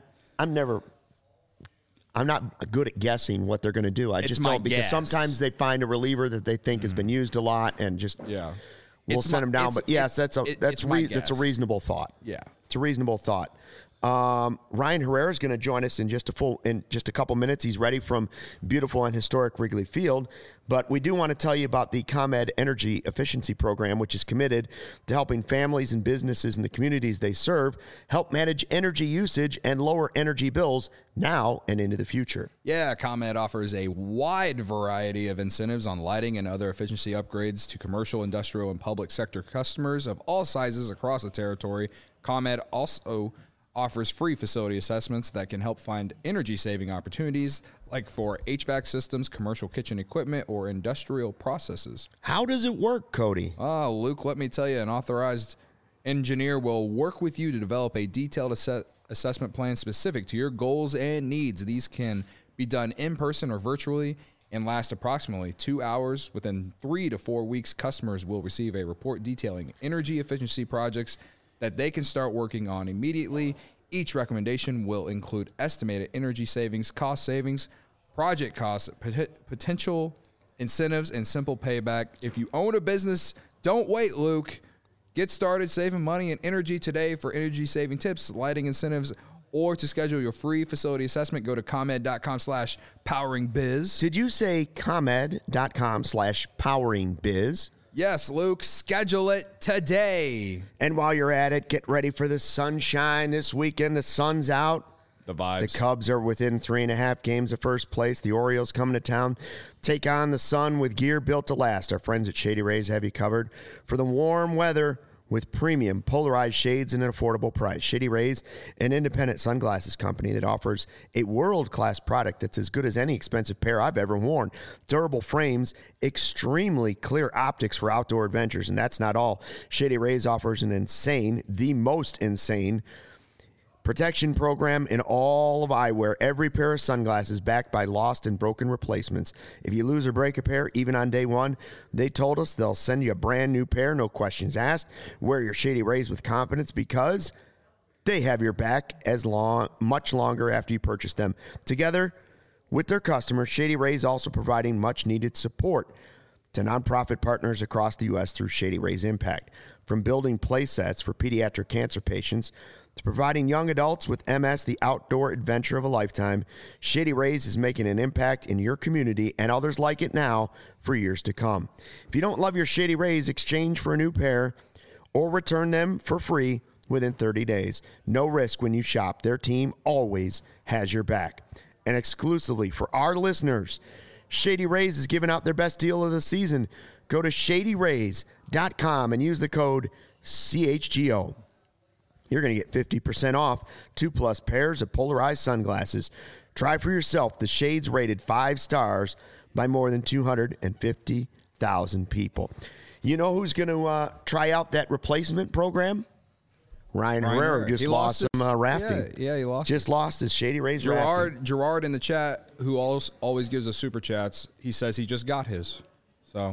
not good at guessing what they're going to do. I just don't, because sometimes they find a reliever that they think has been used a lot and just we'll send him down. But yes, that's a reasonable thought. Yeah. It's a reasonable thought. Ryan Herrera is going to join us in just a couple minutes. He's ready from beautiful and historic Wrigley Field. But we do want to tell you about the ComEd Energy Efficiency Program, which is committed to helping families and businesses in the communities they serve help manage energy usage and lower energy bills now and into the future. Yeah, ComEd offers a wide variety of incentives on lighting and other efficiency upgrades to commercial, industrial, and public sector customers of all sizes across the territory. ComEd also offers free facility assessments that can help find energy-saving opportunities like for HVAC systems, commercial kitchen equipment, or industrial processes. How does it work, Cody? Oh, Luke, let me tell you, an authorized engineer will work with you to develop a detailed assessment plan specific to your goals and needs. These can be done in person or virtually and last approximately 2 hours. Within 3 to 4 weeks, customers will receive a report detailing energy efficiency projects that they can start working on immediately. Each recommendation will include estimated energy savings, cost savings, project costs, potential incentives, and simple payback. If you own a business, don't wait, Luke. Get started saving money and energy today. For energy saving tips, lighting incentives, or to schedule your free facility assessment, go to ComEd.com/poweringbiz. Did you say ComEd.com/poweringbiz? Yes, Luke, schedule it today. And while you're at it, get ready for the sunshine this weekend. The sun's out. The vibes. The Cubs are within 3.5 games of first place. The Orioles coming to town. Take on the sun with gear built to last. Our friends at Shady Rays have you covered for the warm weather with premium polarized shades and an affordable price. Shady Rays, an independent sunglasses company that offers a world-class product that's as good as any expensive pair I've ever worn. Durable frames, extremely clear optics for outdoor adventures, and that's not all. Shady Rays offers the most insane protection program in all of eyewear. Every pair of sunglasses backed by lost and broken replacements. If you lose or break a pair, even on day one, they told us they'll send you a brand new pair, no questions asked. Wear your Shady Rays with confidence because they have your back much longer after you purchase them. Together with their customers, Shady Rays also providing much needed support to nonprofit partners across the U.S. through Shady Rays Impact. From building play sets for pediatric cancer patients to providing young adults with MS the outdoor adventure of a lifetime, Shady Rays is making an impact in your community and others like it now for years to come. If you don't love your Shady Rays, exchange for a new pair or return them for free within 30 days. No risk when you shop. Their team always has your back. And exclusively for our listeners, Shady Rays is giving out their best deal of the season. Go to shadyrays.com and use the code CHGO. You're going to get 50% off 2+ pairs of polarized sunglasses. Try for yourself the shades rated 5 stars by more than 250,000 people. You know who's going to try out that replacement program? Ryan Herrera just lost some rafting. Yeah, he lost. Just lost his Shady Rays rafting. Gerard in the chat, who always gives us super chats, he says he just got his. So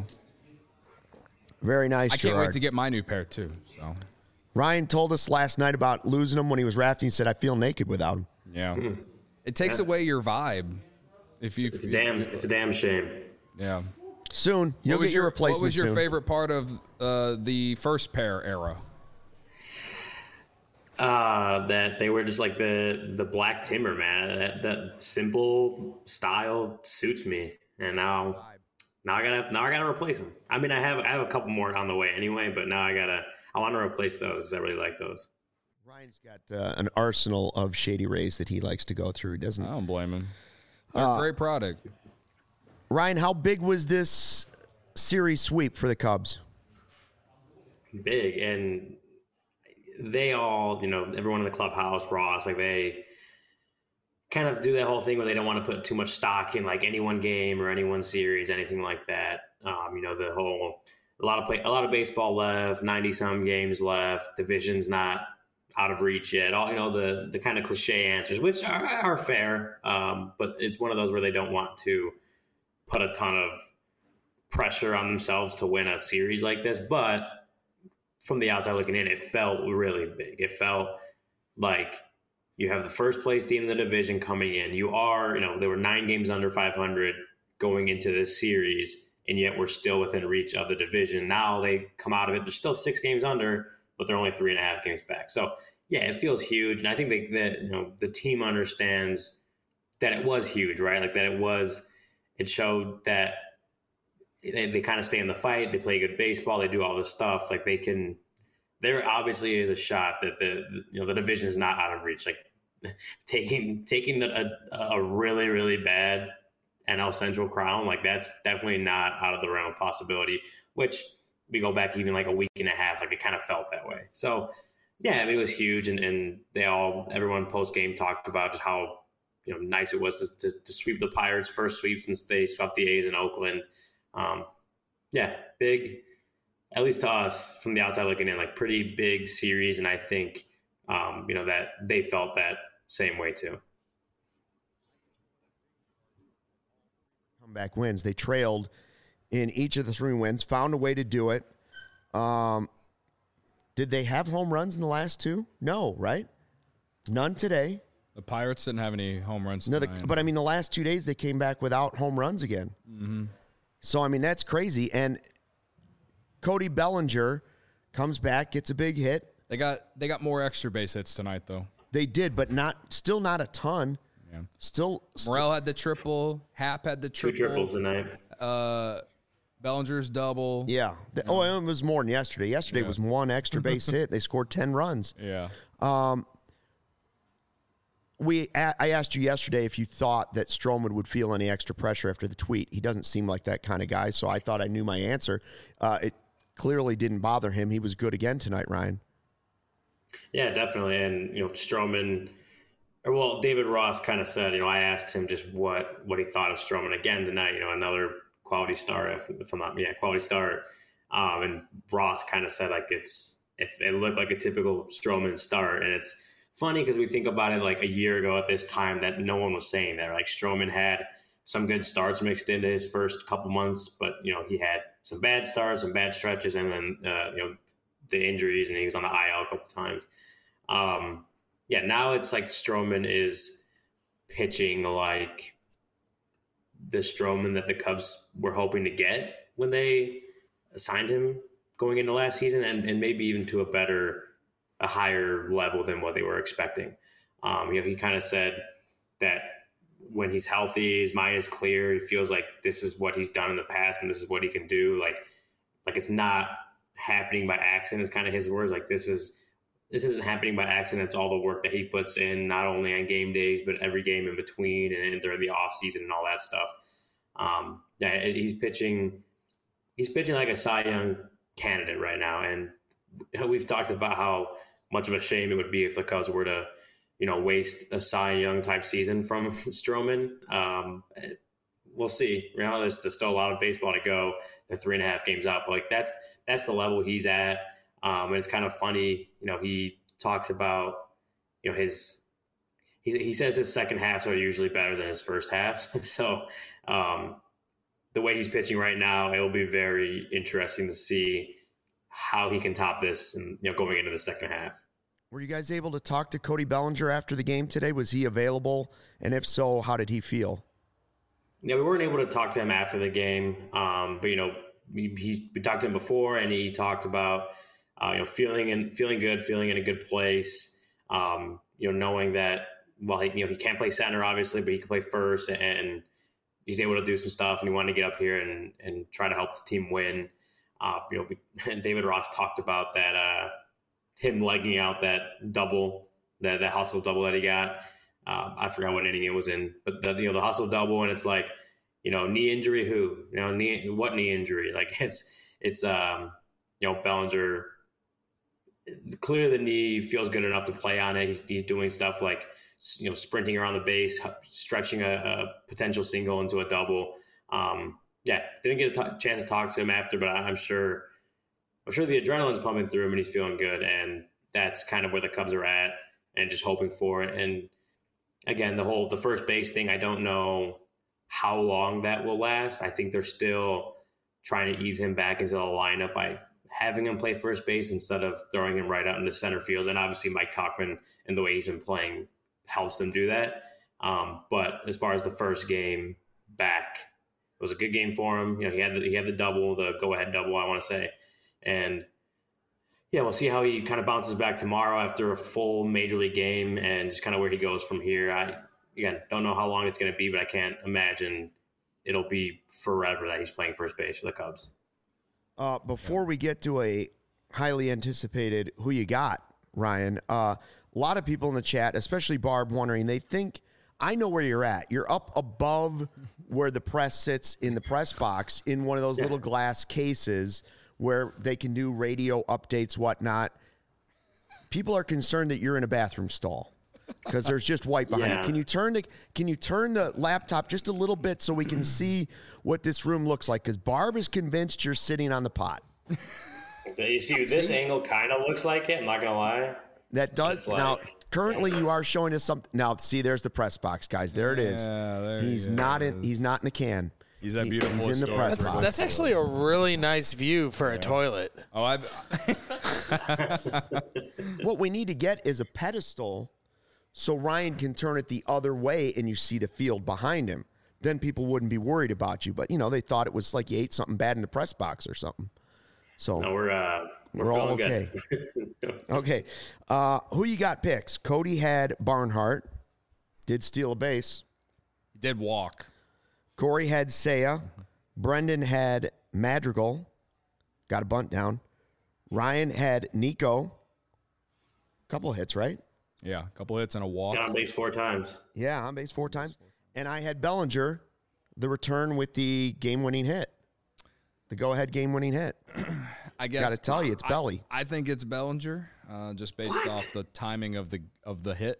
very nice, I can't wait to get my new pair too. So Ryan told us last night about losing him when he was rafting. He said, I feel naked without him. Yeah. It takes away your vibe. It's a damn shame. Yeah. Soon. You'll get your replacement. What was your soon. favorite part of the first pair era? That they were just like the black timber, man. That simple style suits me. And now I gotta replace them. I mean, I have a couple more on the way anyway, but now I want to replace those. I really like those. Ryan's got an arsenal of Shady Rays that he likes to go through. Doesn't? I don't blame him. They're a great product. Ryan, how big was this series sweep for the Cubs? Big, and they all, everyone in the clubhouse, Ross, like they kind of do that whole thing where they don't want to put too much stock in like any one game or any one series, anything like that. The whole a lot of baseball left, 90-some games left, division's not out of reach yet. All the kind of cliche answers, which are fair, but it's one of those where they don't want to put a ton of pressure on themselves to win a series like this. But from the outside looking in, it felt really big. It felt like you have the first place team in the division coming in. You are, they were 9 games under 500 going into this series, and yet we're still within reach of the division. Now they come out of it. They're still 6 games under, but they're only 3.5 games back. So, yeah, it feels huge. And I think that the team understands that it was huge, right? Like that it showed that they kind of stay in the fight. They play good baseball. They do all this stuff. Like there obviously is a shot that the division is not out of reach. Like taking a really, really bad NL Central crown, like that's definitely not out of the realm of possibility, which we go back even like a week and a half, like it kind of felt that way. So yeah, I mean, it was huge. And everyone post game talked about just how, nice it was to sweep the Pirates, first sweep since they swept the A's in Oakland. Yeah, big, at least to us from the outside looking in, like pretty big series. And I think, that they felt that same way too. Comeback wins. They trailed in each of the 3 wins, found a way to do it. Did they have home runs in the last 2? No, right? None today. The Pirates didn't have any home runs No, tonight. but I mean, the last 2 days they came back without home runs again. Mm-hmm. So, I mean, that's crazy. And Cody Bellinger comes back, gets a big hit. They got more extra base hits tonight, though. They did, but still not a ton. Yeah. Still Morel had the triple. Hap had the 2 triple. triples tonight. Bellinger's double. Yeah. It was more than yesterday. Yesterday was 1 extra base hit. They scored 10 runs. Yeah. I asked you yesterday if you thought that Stroman would feel any extra pressure after the tweet. He doesn't seem like that kind of guy, so I thought I knew my answer. It clearly didn't bother him. He was good again tonight, Ryan. Yeah, definitely. And, Stroman, David Ross kind of said, I asked him just what he thought of Stroman again tonight, another quality start, if I'm not, quality start. And Ross kind of said, like, if it looked like a typical Stroman start. And it's funny because we think about it like a year ago at this time that no one was saying that. Like Stroman had some good starts mixed into his first couple months, but, he had some bad starts, some bad stretches, and then, the injuries, and he was on the IL a couple times. Now it's like Stroman is pitching like the Stroman that the Cubs were hoping to get when they signed him going into last season, and maybe even to a higher level than what they were expecting. He kind of said that when he's healthy, his mind is clear. He feels like this is what he's done in the past and this is what he can do. Like it's not happening by accident is kind of his words. Like this isn't happening by accident. It's all the work that he puts in, not only on game days, but every game in between and during the off season and all that stuff. He's pitching like a Cy Young candidate right now. And we've talked about how much of a shame it would be if the Cubs were to, waste a Cy Young type season from Stroman. We'll see. There's still a lot of baseball to go. They're 3.5 games out, but like that's the level he's at. And it's kind of funny, he talks about, he says his second halves are usually better than his first halves. So the way he's pitching right now, it will be very interesting to see how he can top this and, going into the second half. Were you guys able to talk to Cody Bellinger after the game today? Was he available? And if so, how did he feel? Yeah, we weren't able to talk to him after the game. But, we talked to him before, and he talked about, feeling good, feeling in a good place, knowing that, he can't play center, obviously, but he can play first, and he's able to do some stuff, and he wanted to get up here and try to help the team win. David Ross talked about that, him legging out that double, that hustle double that he got. I forgot what inning it was in, but the hustle double, and it's like, knee injury, what knee injury? Like it's Bellinger, clearly the knee feels good enough to play on it. He's doing stuff like, sprinting around the base, stretching a potential single into a double. Didn't get a chance to talk to him after, but I'm sure the adrenaline's pumping through him and he's feeling good. And that's kind of where the Cubs are at and just hoping for it. And again, the first base thing, I don't know how long that will last. I think they're still trying to ease him back into the lineup by having him play first base instead of throwing him right out into center field. And obviously Mike Tauchman and the way he's been playing helps them do that. But as far as the first game back, was a good game for him. He had the double, the go-ahead double, I want to say. And yeah, we'll see how he kind of bounces back tomorrow after a full major league game and just kind of where he goes from here. I don't know how long it's going to be, but I can't imagine it'll be forever that he's playing first base for the Cubs. Before we get to a highly anticipated who you got, Ryan, a lot of people in the chat, especially Barb, wondering, they think, I know where you're at. You're up above where the press sits in the press box in one of those little glass cases where they can do radio updates, whatnot. People are concerned that you're in a bathroom stall because there's just white behind it. Can you turn the laptop just a little bit so we can see what this room looks like? Because Barb is convinced you're sitting on the pot. You see, this angle kind of looks like it. I'm not gonna lie. That does. Now, currently, you are showing us something. Now, see, there's the press box, guys. There it is. He's not in the can. He's that beautiful. He's in the press box. That's actually a really nice view for a toilet. Oh, What we need to get is a pedestal so Ryan can turn it the other way and you see the field behind him. Then people wouldn't be worried about you. But, they thought it was like you ate something bad in the press box or something. So no, we're all okay. Okay. Who you got picks? Cody had Barnhart. Did steal a base. he did walk. Corey had Seiya. Brendan had Madrigal. Got a bunt down. Ryan had Nico. Couple of hits, right? Yeah, a couple hits and a walk. Got on base 4 times. Yeah, on base 4 times. And I had Bellinger, the return with the game-winning hit. The go-ahead game-winning hit. I guess got to tell you, it's Belly. I think it's Bellinger, just based off the timing of the hit.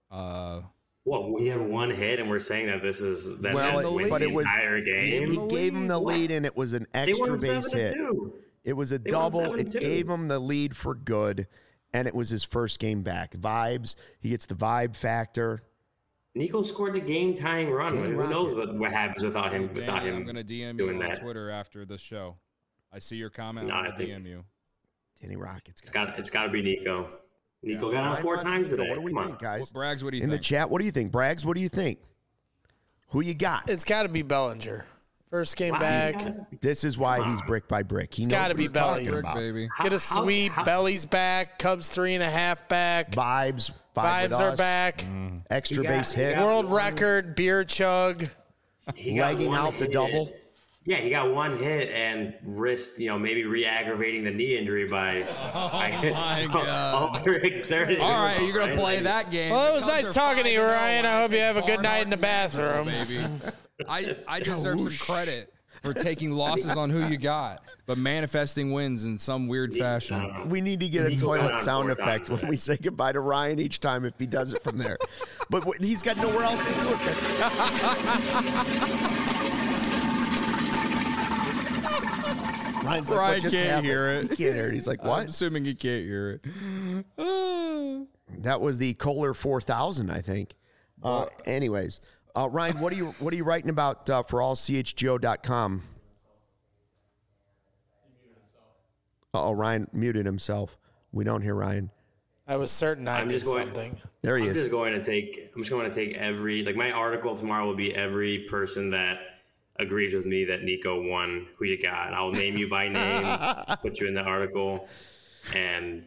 Well, we have one hit, and we're saying that this is that wins but the it was entire game. He gave him the lead, and it was an extra base hit. It was a double. It gave him the lead for good, and it was his first game back. Vibes. He gets the vibe factor. Nico scored the game-tying run. Who knows what happens without him? I'm going to DM you on Twitter after the show. I see your comment. I'm going to DM you. Danny Rockets. It's got to be Nico. Nico got on 4 times today. What do we think, guys? Braggs, what do you think? In the chat, what do you think? Braggs, what do you think? Who you got? It's got to be Bellinger. First game back. This is why he's brick by brick. It's got to be Belly. Baby. Get a sweep. Belly's back. Cubs 3.5 back. Vibes are back. Extra base hit. World record beer chug. Legging out the double. Yeah, he got one hit and risked, maybe re-aggravating the knee injury by overexerting. All right, you're going to play that game. Well, it was nice talking to you, Ryan. I hope you have a good night in the bathroom. Baby. I deserve some credit for taking losses on who you got, but manifesting wins in some weird fashion. We need to get a toilet sound effect when we say goodbye to Ryan each time if he does it from there. But he's got nowhere else to do it. Ryan's like, Ryan can't hear it. He can't hear it. He's like, what? I'm assuming he can't hear it. That was the Kohler 4000, I think. Anyways, Ryan, what are you writing about for allchgo.com? Uh-oh, Ryan muted himself. We don't hear Ryan. I was certain I did something. There he is. I'm just going to take every, my article tomorrow will be every person that agrees with me that Nico won who you got. I'll name you by name, put you in the article, and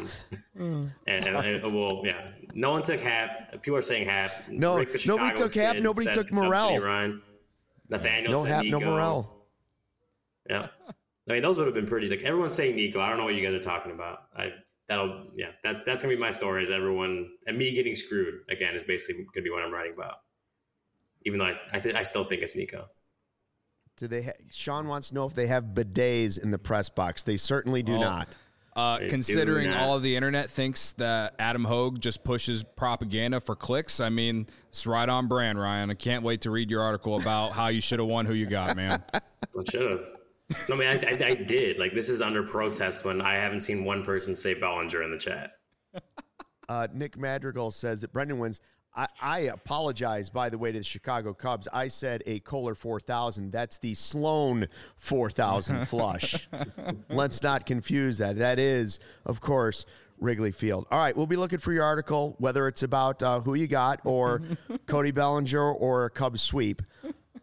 well, yeah. No one took Hap. People are saying Hap. No, nobody took Hap. Nobody took Morel. Nathaniel no said Hap, Nico. no Morel. Yeah, those would have been pretty. Everyone's saying Nico. I don't know what you guys are talking about. That's gonna be my story. Is everyone and me getting screwed again is basically gonna be what I'm writing about. Even though I still think it's Nico. Do they? Sean wants to know if they have bidets in the press box. They certainly do not. Considering all of the internet thinks that Adam Hogue just pushes propaganda for clicks, I mean, it's right on brand, Ryan. I can't wait to read your article about how you should have won who you got, man. I should have. I mean, I did. This is under protest when I haven't seen one person say Bellinger in the chat. Nick Madrigal says that Brendan wins. I apologize, by the way, to the Chicago Cubs. I said a Kohler 4000. That's the Sloan 4000 flush. Let's not confuse that. That is, of course, Wrigley Field. All right, we'll be looking for your article, whether it's about who you got or Cody Bellinger or a Cubs sweep.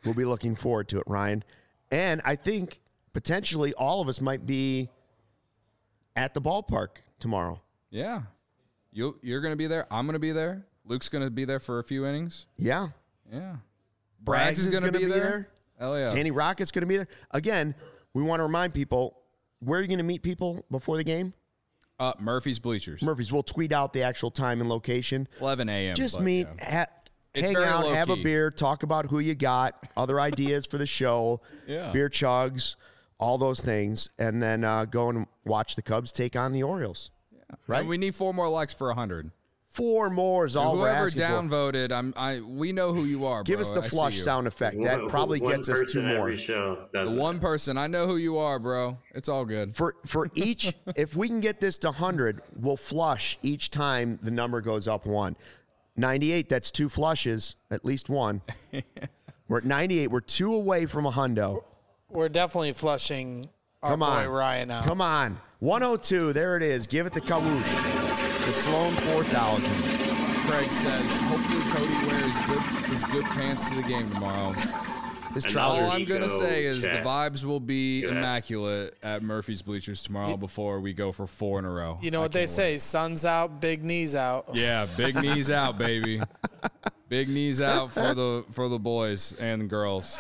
We'll be looking forward to it, Ryan. And I think potentially all of us might be at the ballpark tomorrow. Yeah. You're going to be there. I'm going to be there. Luke's going to be there for a few innings. Yeah. Yeah. Braggs is going to be there. Hell yeah. Danny Rocket's going to be there. Again, we want to remind people, where are you going to meet people before the game? Murphy's Bleachers. Murphy's. We'll tweet out the actual time and location. 11 a.m. Just meet, yeah. hang very out, have a low-key. beer, talk about who you got, other ideas for the show, Yeah. beer chugs, all those things, and then go and watch the Cubs take on the Orioles. Right? And we need 4 more likes for 100. 4 more is all we're Whoever asking for. downvoted, we know who you are, bro. Give us the I see flush you. sound effect. That probably One gets us 2 person more. every show does The that. one person. I know who you are, bro. It's all good. For each, if we can get this to 100, we'll flush each time the number goes up 1. 98, that's 2 flushes, at least 1. We're at 98. We're 2 away from a hundo. We're definitely flushing our Come boy on. Ryan out. Come on. 102, there it is. Give it the Kawoosh. The Sloan 4000. Craig says, hopefully Cody wears his good pants to the game tomorrow. This And trouser. All I'm going to Eco say is chat. the vibes will be Look at that. immaculate at Murphy's Bleachers tomorrow before we go for 4 in a row. You know I what they can't say, wait. sun's out, big knees out. Yeah, big knees out, baby. Big knees out for the boys and girls.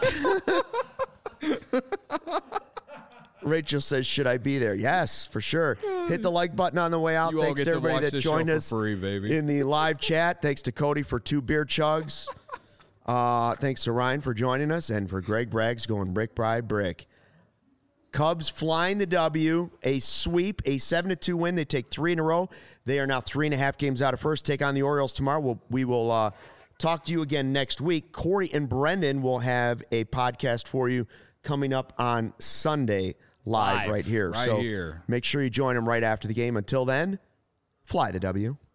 Rachel says, should I be there? Yes, for sure. Hit the like button on the way out. You all Thanks get to to everybody watch that this show joined for us free, baby. in the live chat. Thanks to Cody for 2 beer chugs. Thanks to Ryan for joining us and for Greg Braggs going brick by brick. Cubs flying the W, a sweep, a 7-2 win. They take 3 in a row. They are now 3.5 games out of first. Take on the Orioles tomorrow. We will talk to you again next week. Corey and Brendan will have a podcast for you coming up on Sunday live right here. right So here. make sure you join them right after the game. Until then, fly the W.